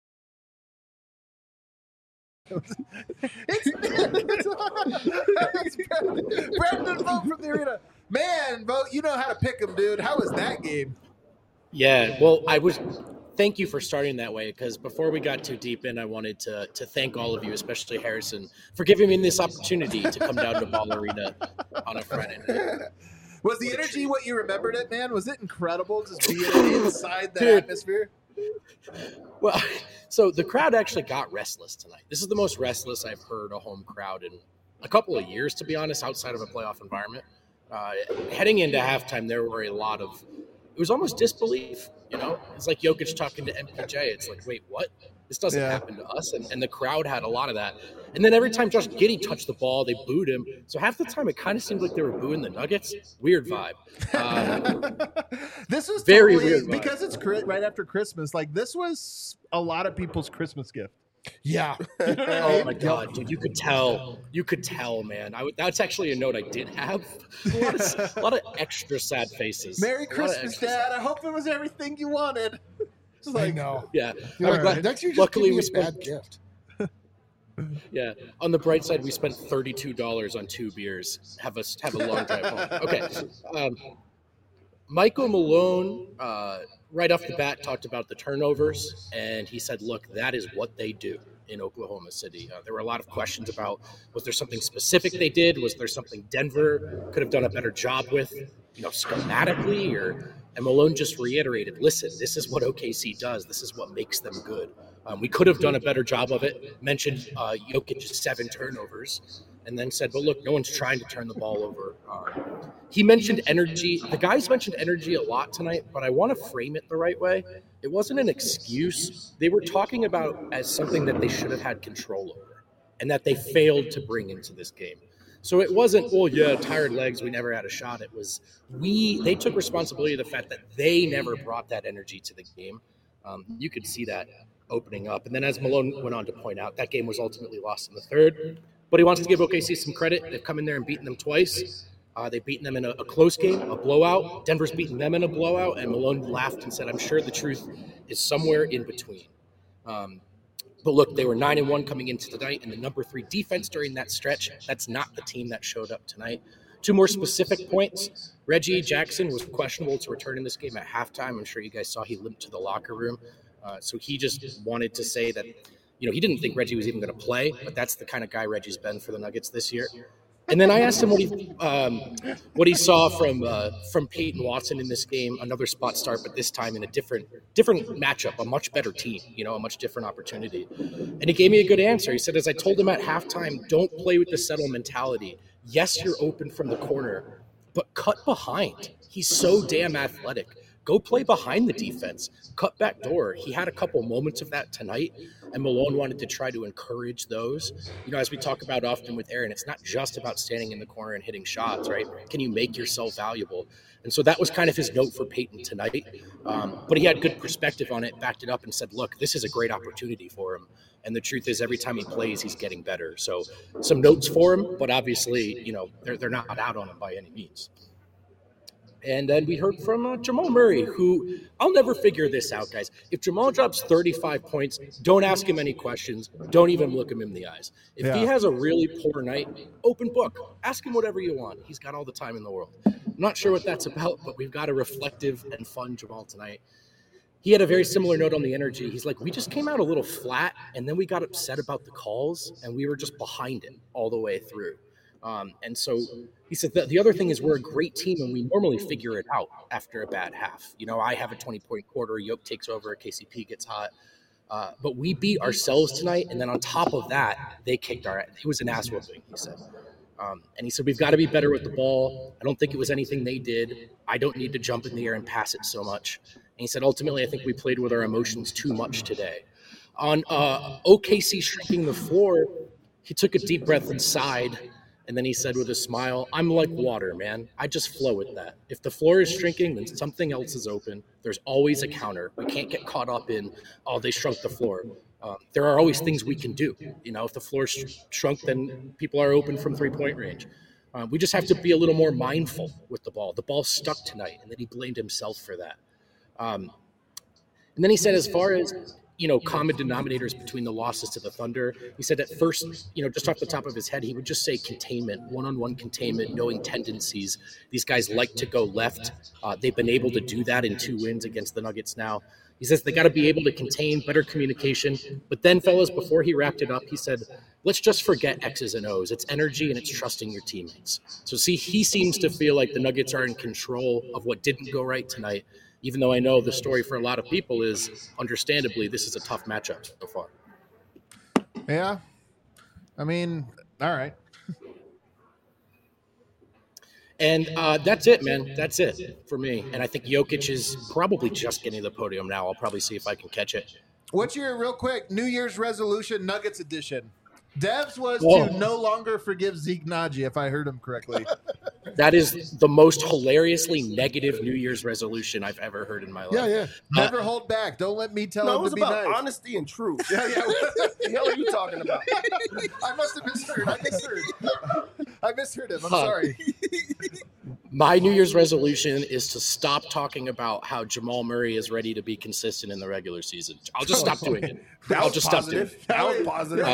It's Brandon Vogt from the arena. Man, Vogt, you know how to pick him, dude. How was that game? Yeah, well, thank you for starting that way, because before we got too deep in, I wanted to thank all of you, especially Harrison, for giving me this opportunity to come down to Ball Arena on a Friday night. Was the energy what you remembered it, man? Was it incredible just being inside that Dude. atmosphere? Well, so the crowd actually got restless tonight. This is the most restless I've heard a home crowd in a couple of years, to be honest, outside of a playoff environment. Heading into halftime, there were a lot of it was almost disbelief. It's like Jokic talking to MPJ. It's like, wait, what? This doesn't happen to us. And the crowd had a lot of that. And then every time Josh Giddey touched the ball, they booed him. So half the time, it kind of seemed like they were booing the Nuggets. Weird vibe. This was very totally, weird vibe. because it's right after Christmas. Like, this was a lot of people's Christmas gift. Yeah. Oh my God, dude! You could tell, man. That's actually a note I did have. A lot of extra sad faces. Merry Christmas, Dad. I hope it was everything you wanted. It's like, no. Yeah. Next year, just Luckily, give me we a bad gift. Yeah. On the bright side, we spent $32 on 2 beers. Have a long drive home. Okay. Michael Malone, right off the bat, talked about the turnovers, and he said, look, that is what they do in Oklahoma City. There were a lot of questions about, was there something specific they did? Was there something Denver could have done a better job with, schematically? And Malone just reiterated, listen, this is what OKC does. This is what makes them good. We could have done a better job of it. Mentioned Jokic's 7 turnovers. And then said, but look, no one's trying to turn the ball over. He mentioned energy. The guys mentioned energy a lot tonight, but I want to frame it the right way. It wasn't an excuse. They were talking about as something that they should have had control over and that they failed to bring into this game. So it wasn't, tired legs, we never had a shot. It was they took responsibility of the fact that they never brought that energy to the game. You could see that opening up. And then as Malone went on to point out, that game was ultimately lost in the third. But he wants to give OKC some credit. They've come in there and beaten them twice. They've beaten them in a close game, a blowout. Denver's beaten them in a blowout. And Malone laughed and said, I'm sure the truth is somewhere in between. But look, they were 9-1 coming into tonight, and the number 3 defense during that stretch. That's not the team that showed up tonight. 2 more specific points. Reggie Jackson was questionable to return in this game at halftime. I'm sure you guys saw he limped to the locker room. So he just wanted to say that he didn't think Reggie was even going to play, but that's the kind of guy Reggie's been for the Nuggets this year. And then I asked him what he saw from Peyton Watson in this game, another spot start, but this time in a different matchup, a much better team, a much different opportunity. And he gave me a good answer. He said, as I told him at halftime, don't play with the settle mentality. Yes, you're open from the corner, but cut behind. He's so damn athletic. Go play behind the defense. Cut back door. He had a couple moments of that tonight, and Malone wanted to try to encourage those. As we talk about often with Aaron, it's not just about standing in the corner and hitting shots, right? Can you make yourself valuable? And so that was kind of his note for Peyton tonight. But he had good perspective on it, backed it up, and said, look, this is a great opportunity for him. And the truth is, every time he plays, he's getting better. So some notes for him, but obviously, they're not out on him by any means. And then we heard from Jamal Murray, who I'll never figure this out, guys. If Jamal drops 35 points, don't ask him any questions. Don't even look him in the eyes. If he has a really poor night, open book. Ask him whatever you want. He's got all the time in the world. I'm not sure what that's about, but we've got a reflective and fun Jamal tonight. He had a very similar note on the energy. He's like, we just came out a little flat, and then we got upset about the calls, and we were just behind it all the way through. And so he said that the other thing is we're a great team and we normally figure it out after a bad half. I have a 20-point quarter. Yoke takes over. KCP gets hot. But we beat ourselves tonight. And then on top of that, they kicked our – it was an ass whooping, he said. And he said, we've got to be better with the ball. I don't think it was anything they did. I don't need to jump in the air and pass it so much. And he said, ultimately, I think we played with our emotions too much today. On OKC shrinking the floor, he took a deep breath and sighed. And then he said with a smile, I'm like water, man. I just flow with that. If the floor is shrinking, then something else is open. There's always a counter. We can't get caught up in, they shrunk the floor. There are always things we can do. If the floor shrunk, then people are open from 3-point range. We just have to be a little more mindful with the ball. The ball stuck tonight, and then he blamed himself for that. And then he said, as far as common denominators between the losses to the Thunder. He said at first, just off the top of his head, he would just say containment, one-on-one containment, knowing tendencies. These guys like to go left. They've been able to do that in 2 wins against the Nuggets now. He says they got to be able to contain, better communication. But then, fellas, before he wrapped it up, he said, let's just forget X's and O's. It's energy and it's trusting your teammates. So see, he seems to feel like the Nuggets are in control of what didn't go right tonight. Even though I know the story for a lot of people is, understandably, this is a tough matchup so far. Yeah. I mean, all right. And that's it, man. That's it for me. And I think Jokic is probably just getting to the podium now. I'll probably see if I can catch it. What's your real quick New Year's resolution Nuggets edition? Dev's was Oh. to no longer forgive Zeke Naji, if I heard him correctly. That is the most hilariously negative New Year's resolution I've ever heard in my life. Yeah. Never hold back. Don't let me tell No, it him was to be about nice. honesty and truth. Yeah. What the hell are you talking about? I must have misheard. I misheard him. I'm sorry. My New Year's resolution is to stop talking about how Jamal Murray is ready to be consistent in the regular season. I'll just stop doing it. I'll just stop doing it. That was positive.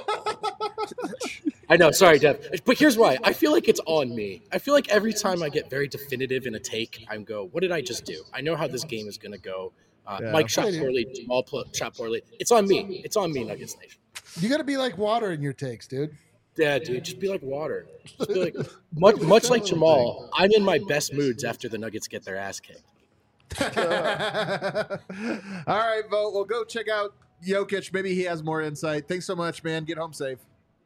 I know, sorry, Dev. But here's why. I feel like it's on me. I feel like every time I get very definitive in a take, I go, what did I just do? I know how this game is going to go. Mike shot poorly, Jamal shot poorly. It's on me. It's on me, Nuggets Nation. You got to be like water in your takes, dude. Yeah, dude, just be like water. Just be like, much like Jamal, I'm in my best moods after the Nuggets get their ass kicked. All right, Vote. Well, go check out Jokic. Maybe he has more insight. Thanks so much, man. Get home safe.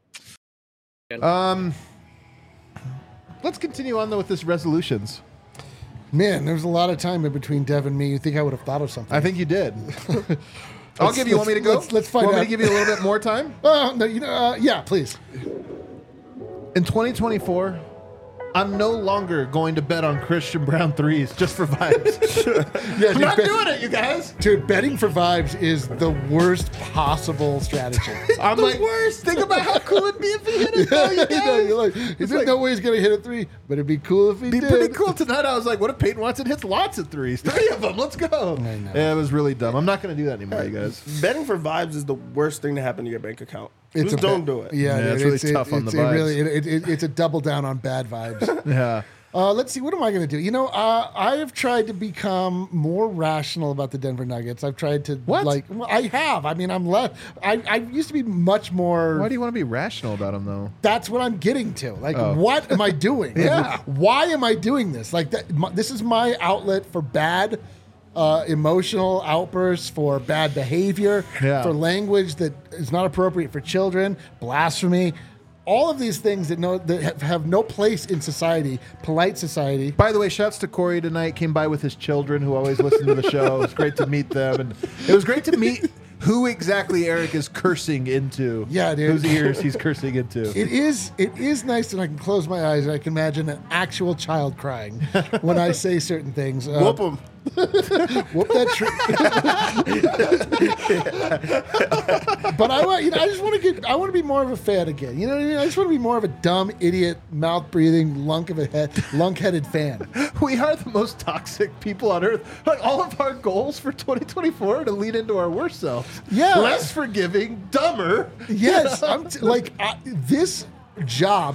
Let's continue on though with this resolutions. Man, there was a lot of time in between Dev and me. You think I would have thought of something? I think you did. I'll give you. Want me to go? Let's find Want me out. to give you a little bit more time? No, yeah, please. In 2024, I'm no longer going to bet on Christian Brown threes just for vibes. Yeah, I'm dude, not doing it, you guys. Dude, betting for vibes is the worst possible strategy. I'm like, worst. Think about how cool it'd be if he hit it. Though, you guys. You're like, there's no way he's gonna hit a three, but it'd be cool if he Be did. pretty cool tonight. I was like, what if Peyton Watson hits lots of threes? 3 of them. Let's go. I know. Yeah, it was really dumb. I'm not going to do that anymore, you guys. Betting for vibes is the worst thing to happen to your bank account. It's Just don't do it. Yeah, Yeah, dude, it's really tough on the it vibes. really, it's a double down on bad vibes. Yeah. Let's see. What am I going to do? I have tried to become more rational about the Denver Nuggets. I've tried to I have. I mean, I'm less. I used to be much more. Why do you want to be rational about him, though? That's what I'm getting to. Like, Oh. what am I doing? Like, Yeah. why am I doing this? Like, this is my outlet for bad emotional outbursts, for bad behavior, Yeah. for language that is not appropriate for children, blasphemy. All of these things that have no place in society, polite society. By the way, shouts to Corey tonight. Came by with his children who always listen to the show. It was great to meet them. And it was great to meet who exactly Eric is cursing into. Yeah, dude. Whose ears he's cursing into. It is nice that I can close my eyes and I can imagine an actual child crying when I say certain things. Whoop them. Whoop that tree. But I want to be more of a fan again. You know what I mean? I just want to be more of a dumb, idiot, mouth breathing, lunk-headed fan. We are the most toxic people on earth. Like all of our goals for 2024 are to lead into our worst selves. Yeah. Less forgiving, dumber. Yes, this job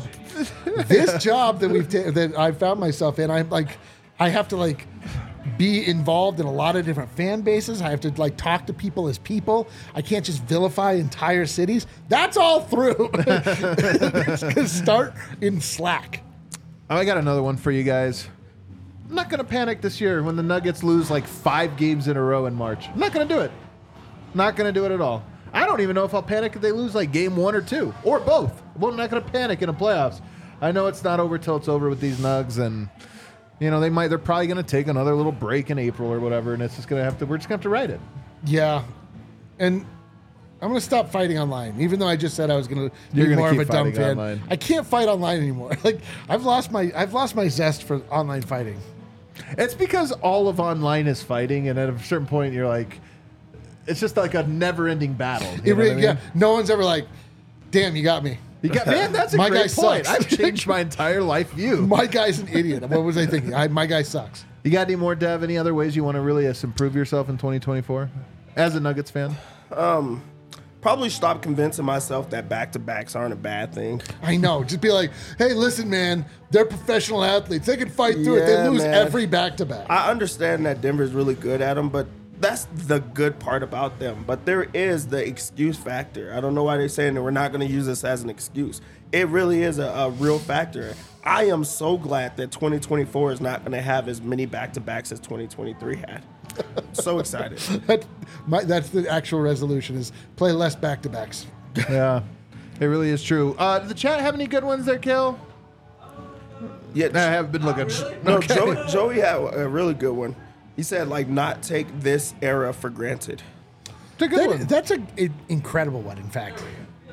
that I found myself in. I have to be involved in a lot of different fan bases. I have to talk to people as people. I can't just vilify entire cities. That's all through. It's gonna start in Slack. I got another one for you guys. I'm not going to panic this year when the Nuggets lose 5 games in a row in March. I'm not going to do it. Not going to do it at all. I don't even know if I'll panic if they lose game 1 or 2 or both. I'm not going to panic in the playoffs. I know it's not over till it's over with these Nugs, and they're probably going to take another little break in April or whatever, and it's just going to we're just going to have to ride it. Yeah, and I'm going to stop fighting online, even though I just said I was going to You're be gonna more of keep a dumb fighting fan. online. I can't fight online anymore. I've lost my zest for online fighting. It's because all of online is fighting, and at a certain point, you're like, it's just like a never-ending battle. You know what I mean? Yeah, no one's ever like, damn, you got me. Man, that's a My great guy point. sucks. I've changed my entire life view. My guy's an idiot. What was I thinking? My guy sucks. You got any more, Dev? Any other ways you want to really improve yourself in 2024 as a Nuggets fan? Probably stop convincing myself that back-to-backs aren't a bad thing. I know. Just be like, hey, listen, man, they're professional athletes. They can fight through it. They Yeah, lose man. every back-to-back. I understand that Denver's really good at them, but that's the good part about them. But there is the excuse factor. I don't know why they're saying that we're not going to use this as an excuse. It really is a real factor. I am so glad that 2024 is not going to have as many back-to-backs as 2023 had. So excited. That's the actual resolution, is play less back-to-backs. Yeah, it really is true. Does the chat have any good ones there, Kale? Yeah, I haven't been looking. no, Joey had a really good one. He said, like, not take this era for granted. It's a good one. That's an incredible one, in fact.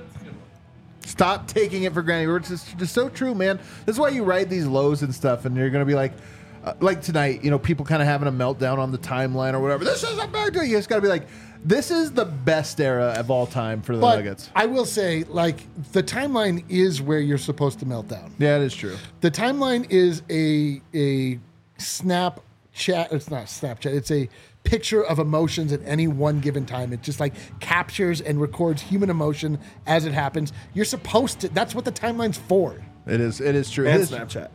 Stop taking it for granted. It's just so true, man. That's why you ride these lows and stuff, and you're going to be like tonight, people kind of having a meltdown on the timeline or whatever. This is a bad day. You just got to be like, this is the best era of all time for the Nuggets. I will say, like, the timeline is where you're supposed to melt down. Yeah, it is true. The timeline is a Snapchat. It's not Snapchat. It's a picture of emotions at any one given time. It just like captures and records human emotion as it happens. You're supposed to. That's what the timeline's for. It is true. And It is- Snapchat.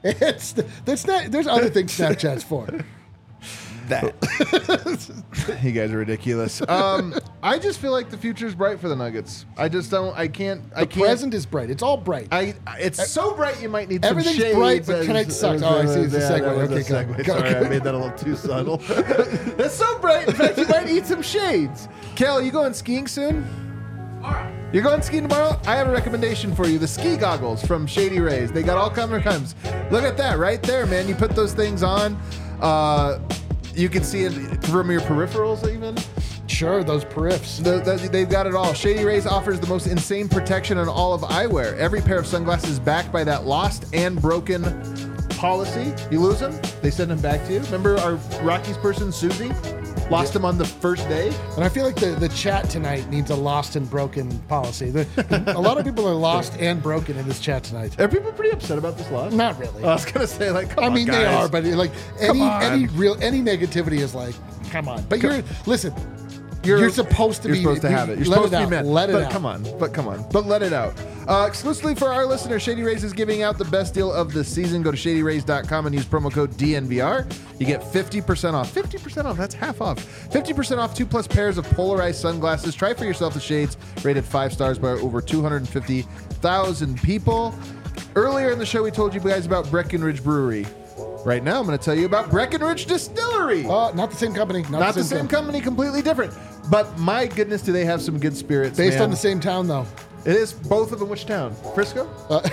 There's other things Snapchat's for. That. You guys are ridiculous. I just feel like the future is bright for the Nuggets. I just don't. I can't. The present is bright. It's all bright. It's so bright you might need some Everything's shades. bright, but tonight sucks. Oh, I see. It's a segue. That was Okay, a go. segue. Go. Sorry, I made that a little too subtle. It's so bright. In fact, you might need some shades. Kel, you going skiing soon? You're going skiing tomorrow? I have a recommendation for you. The ski goggles from Shady Rays. They got all kinds. Look at that right there, man. You put those things on. You can see it from your peripherals even. Sure, those periffs. They've got it all. Shady Rays offers the most insane protection on all of eyewear. Every pair of sunglasses is backed by that lost and broken policy. You lose them, they send them back to you. Remember our Rockies person, Susie? Lost them on the first day. And I feel like the chat tonight needs a lost and broken policy. A lot of people are lost and broken in this chat tonight. Are people pretty upset about this loss? Not really. I was gonna say, like, come I on, mean, they guys. are, but like Come on. any negativity is like, come on. But listen. You're supposed to have it. You're let supposed to be out. mad. Let it but out. Come on. But let it out. Exclusively for our listeners, Shady Rays is giving out the best deal of the season. Go to shadyrays.com and use promo code DNVR. You get 50% off. 50% off. That's half off. 50% off 2+ pairs of polarized sunglasses. Try for yourself the shades rated 5 stars by over 250,000 people. Earlier in the show, we told you guys about Breckenridge Brewery. Right now, I'm going to tell you about Breckenridge Distillery. Not the same company. Not the same company, completely different. But my goodness, do they have some good spirits, Based man. on the same town, though. It is both of them. Which town? Frisco?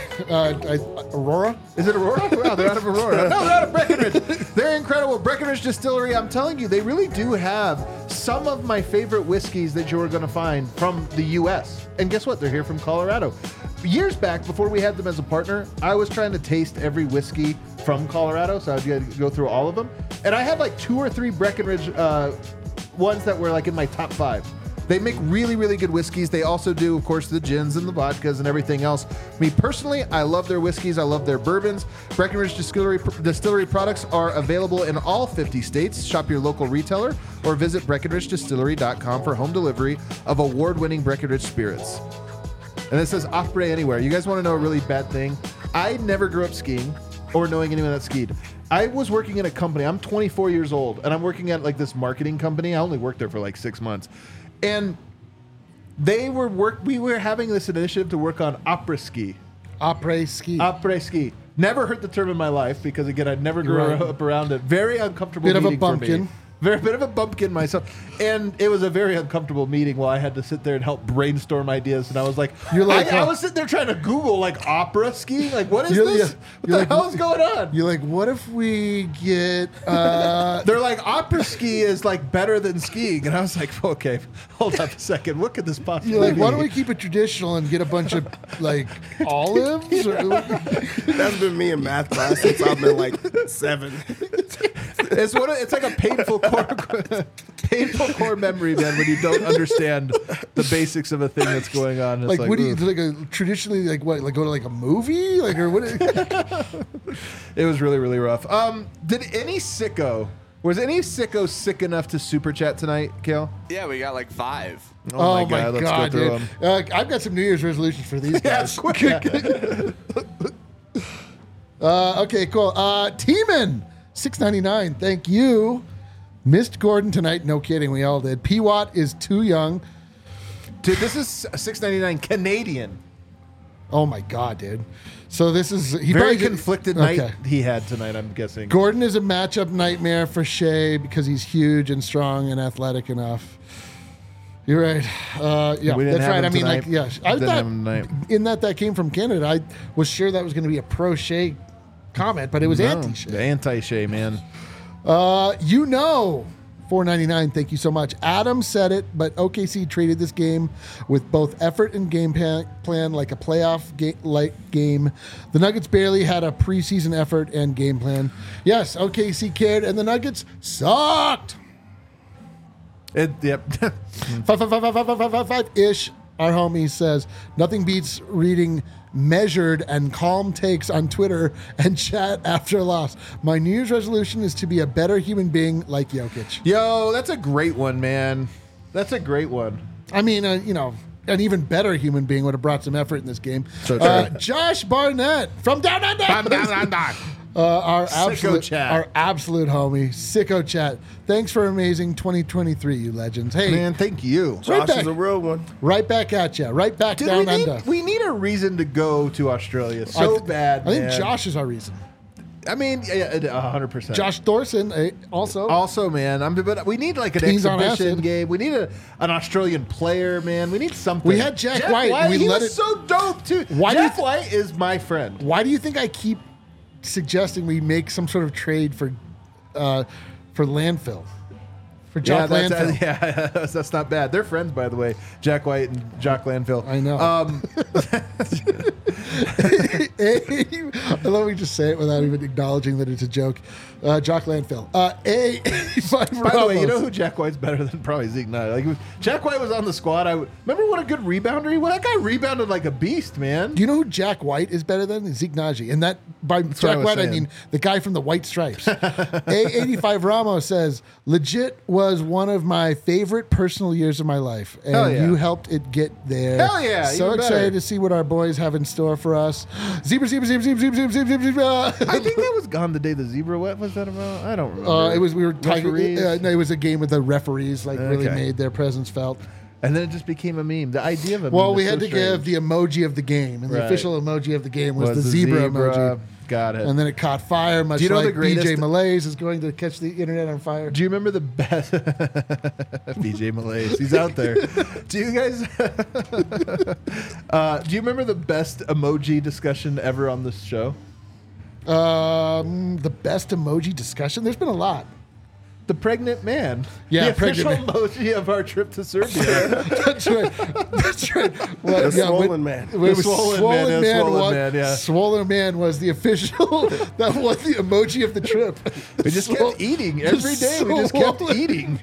Aurora? Is it Aurora? Wow, they're out of Aurora. No, they're out of Breckenridge. They're incredible. Breckenridge Distillery, I'm telling you, they really do have some of my favorite whiskeys that you're going to find from the U.S. And guess what? They're here from Colorado. Years back, before we had them as a partner, I was trying to taste every whiskey from Colorado, so I'd go through all of them. And I had like 2 or 3 Breckenridge ones that were like in my top 5. They make really, really good whiskeys. They also do, of course, the gins and the vodkas and everything else. Me personally, I love their whiskeys. I love their bourbons. Breckenridge Distillery products are available in all 50 states. Shop your local retailer or visit BreckenridgeDistillery.com for home delivery of award-winning Breckenridge spirits. And it says Osprey Anywhere. You guys want to know a really bad thing? I never grew up skiing or knowing anyone that skied. I was working in a company. I'm 24 years old, and I'm working at like this marketing company. I only worked there for like 6 months. And we were having this initiative to work on opera ski. Après ski. Après ski. Never heard the term in my life because, again, I never grew Right. up around it. Very uncomfortable Bit of a meeting for me. bumpkin. Very bit of a bumpkin myself. And it was a very uncomfortable meeting while I had to sit there and help brainstorm ideas. And I was like, You're like, I was sitting there trying to Google like opera ski. Like, what is You're- this? yeah. What You're the like, hell is going on? You're like, what if we get... They're like, opera ski is like better than skiing. And I was like, okay, hold up a second. What could this possibly You're like, be? why don't we keep it traditional and get a bunch of like olives? Or, That's been me in math class since I've been like 7. It's like a painful core memory, man, when you don't understand the basics of a thing that's going on. It's like, what do you ugh. like? Traditionally, like what? Like go to like a movie, like or what? It was really, really rough. Was any sicko sick enough to super chat tonight, Kale? Yeah, we got like 5. Oh my let's god, go through dude! them. I've got some New Year's resolutions for these Yeah, guys. quick. Okay, cool. Teeman, $6.99. Thank you. Missed Gordon tonight. No kidding. We all did. P. Watt is too young. Dude, this is $6.99 Canadian. Oh my god, dude. So this is Very probably- conflicted night he had tonight, I'm guessing. Gordon is a matchup nightmare for Shea because he's huge and strong and athletic enough. You're right. Yeah, We didn't that's have right. him I mean, tonight. like, yeah. I Didn't thought have him tonight. in that came from Canada. I was sure that was going to be a pro Shea comment, but it was anti-Shea. Anti-Shea, man. $4.99. Thank you so much. Adam said it, but OKC traded this game with both effort and game plan like a playoff game. The Nuggets barely had a preseason effort and game plan. Yes, OKC cared, and the Nuggets sucked. Yep. 5-ish. Our homie says, nothing beats reading measured and calm takes on Twitter and chat after a loss. My New Year's resolution is to be a better human being like Jokic. Yo, that's a great one, man. That's a great one. I mean, an even better human being would have brought some effort in this game. So true. Josh Barnett from Down Under. Our absolute homie, Sicko Chat. Thanks for amazing 2023, you legends. Hey, Man, thank you. Josh back. is a real one. right back at you. Right back Dude, down under. we need a reason to go to Australia so bad, I think man. Josh is our reason. I mean, 100%. Josh Thorson also. Also, man, but we need like an Teens on exhibition acid. game. We need an Australian player, man. We need something. We had Jack White, and we he let was it- so dope too. Why do you Jack White is my friend. Why do you think I keep suggesting we make some sort of trade for landfill? For Jock Landfill. That's not bad. They're friends, by the way. Jack White and Jock Landfill. I know. I love we just say it without even acknowledging that it's a joke. Jock Landfill. By the way, you know who Jack White's better than probably Zeke Knight. Like Jack White was on the squad. Remember what a good rebounder he was. That guy rebounded like a beast, man. Do you know who Jack White is better than? Zeke Nagy. And that by what I Jack was White, I saying. mean the guy from the White Stripes. A85 Ramos says, legit was one of my favorite personal years of my life. And Hell yeah. you helped it get there. Hell yeah, So even excited better. to see what our boys have in store for us. Zebra. I think that was gone the day the zebra. What was that about? I don't remember. It was we were talking. Referees? No, it was a game with the referees really Okay. made their presence felt. And then it just became a meme. The idea of a meme. Well, we is had so to give strange. the emoji of the game, and the Right. official emoji of the game was the zebra emoji. Got it. And then it caught fire, much Do you know like the greatest- BJ Malaise is going to catch the internet on fire. Do you remember the best BJ Malaise? He's out there. Do you guys? Do you remember the best emoji discussion ever on this show? The best emoji discussion? There's been a lot. The pregnant man. Yeah, the official pregnant emoji of our trip to Serbia. That's right. That's right. Well, The swollen man. When it was swollen man, yeah. Swollen man was the official. That was the emoji of the trip. We just kept eating every day. We just kept Swollen. eating.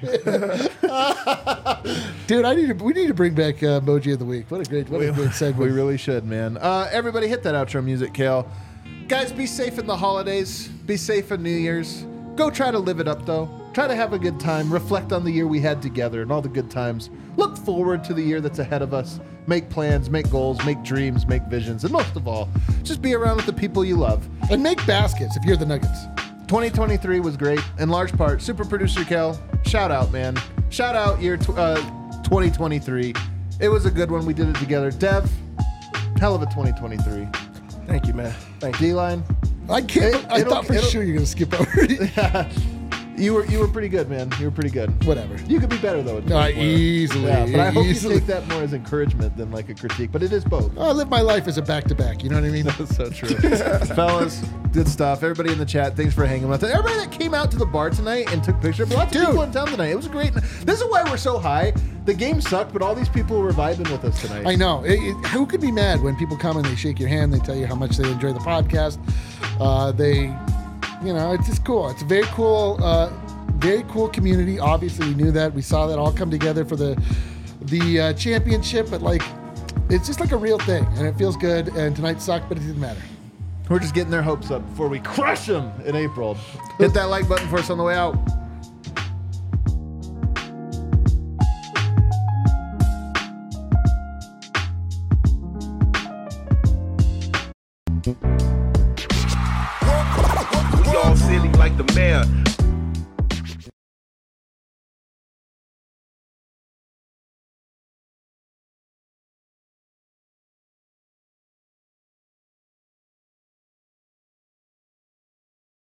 Dude, we need to bring back emoji of the week. What a great segment. We really should, man. Everybody hit that outro music, Kale. Guys, be safe in the holidays. Be safe in New Year's. Go try to live it up, though. Try to have a good time. Reflect on the year we had together and all the good times. Look forward to the year that's ahead of us. Make plans, make goals, make dreams, make visions. And most of all, just be around with the people you love. And make baskets if you're the Nuggets. 2023 was great. In large part, super producer Kel, shout out, man. Shout out year 2023. It was a good one. We did it together. Dev, hell of a 2023. Thank you, man. Thank you. D-line, I can't. I thought for sure you're going to skip over it. you were pretty good, man. You were pretty good. Whatever. You could be better though. Easily. Yeah, but I hope Easily. you take that more as encouragement than like a critique. But it is both. I live my life as a back-to-back. You know what I mean? That's so true. Fellas, good stuff. Everybody in the chat, thanks for hanging with us. Everybody that came out to the bar tonight and took pictures. Lots of people in town tonight. It was great. This is why we're so high. The game sucked, but all these people were vibing with us tonight. I know. Who could be mad when people come and they shake your hand, they tell you how much they enjoy the podcast. It's just cool. It's a very cool community. Obviously, we knew that. We saw that all come together for the championship, but it's just like a real thing, and it feels good. And tonight sucked, but it didn't matter. We're just getting their hopes up before we crush them in April. Hit that like button for us on the way out. We all silly like the mayor.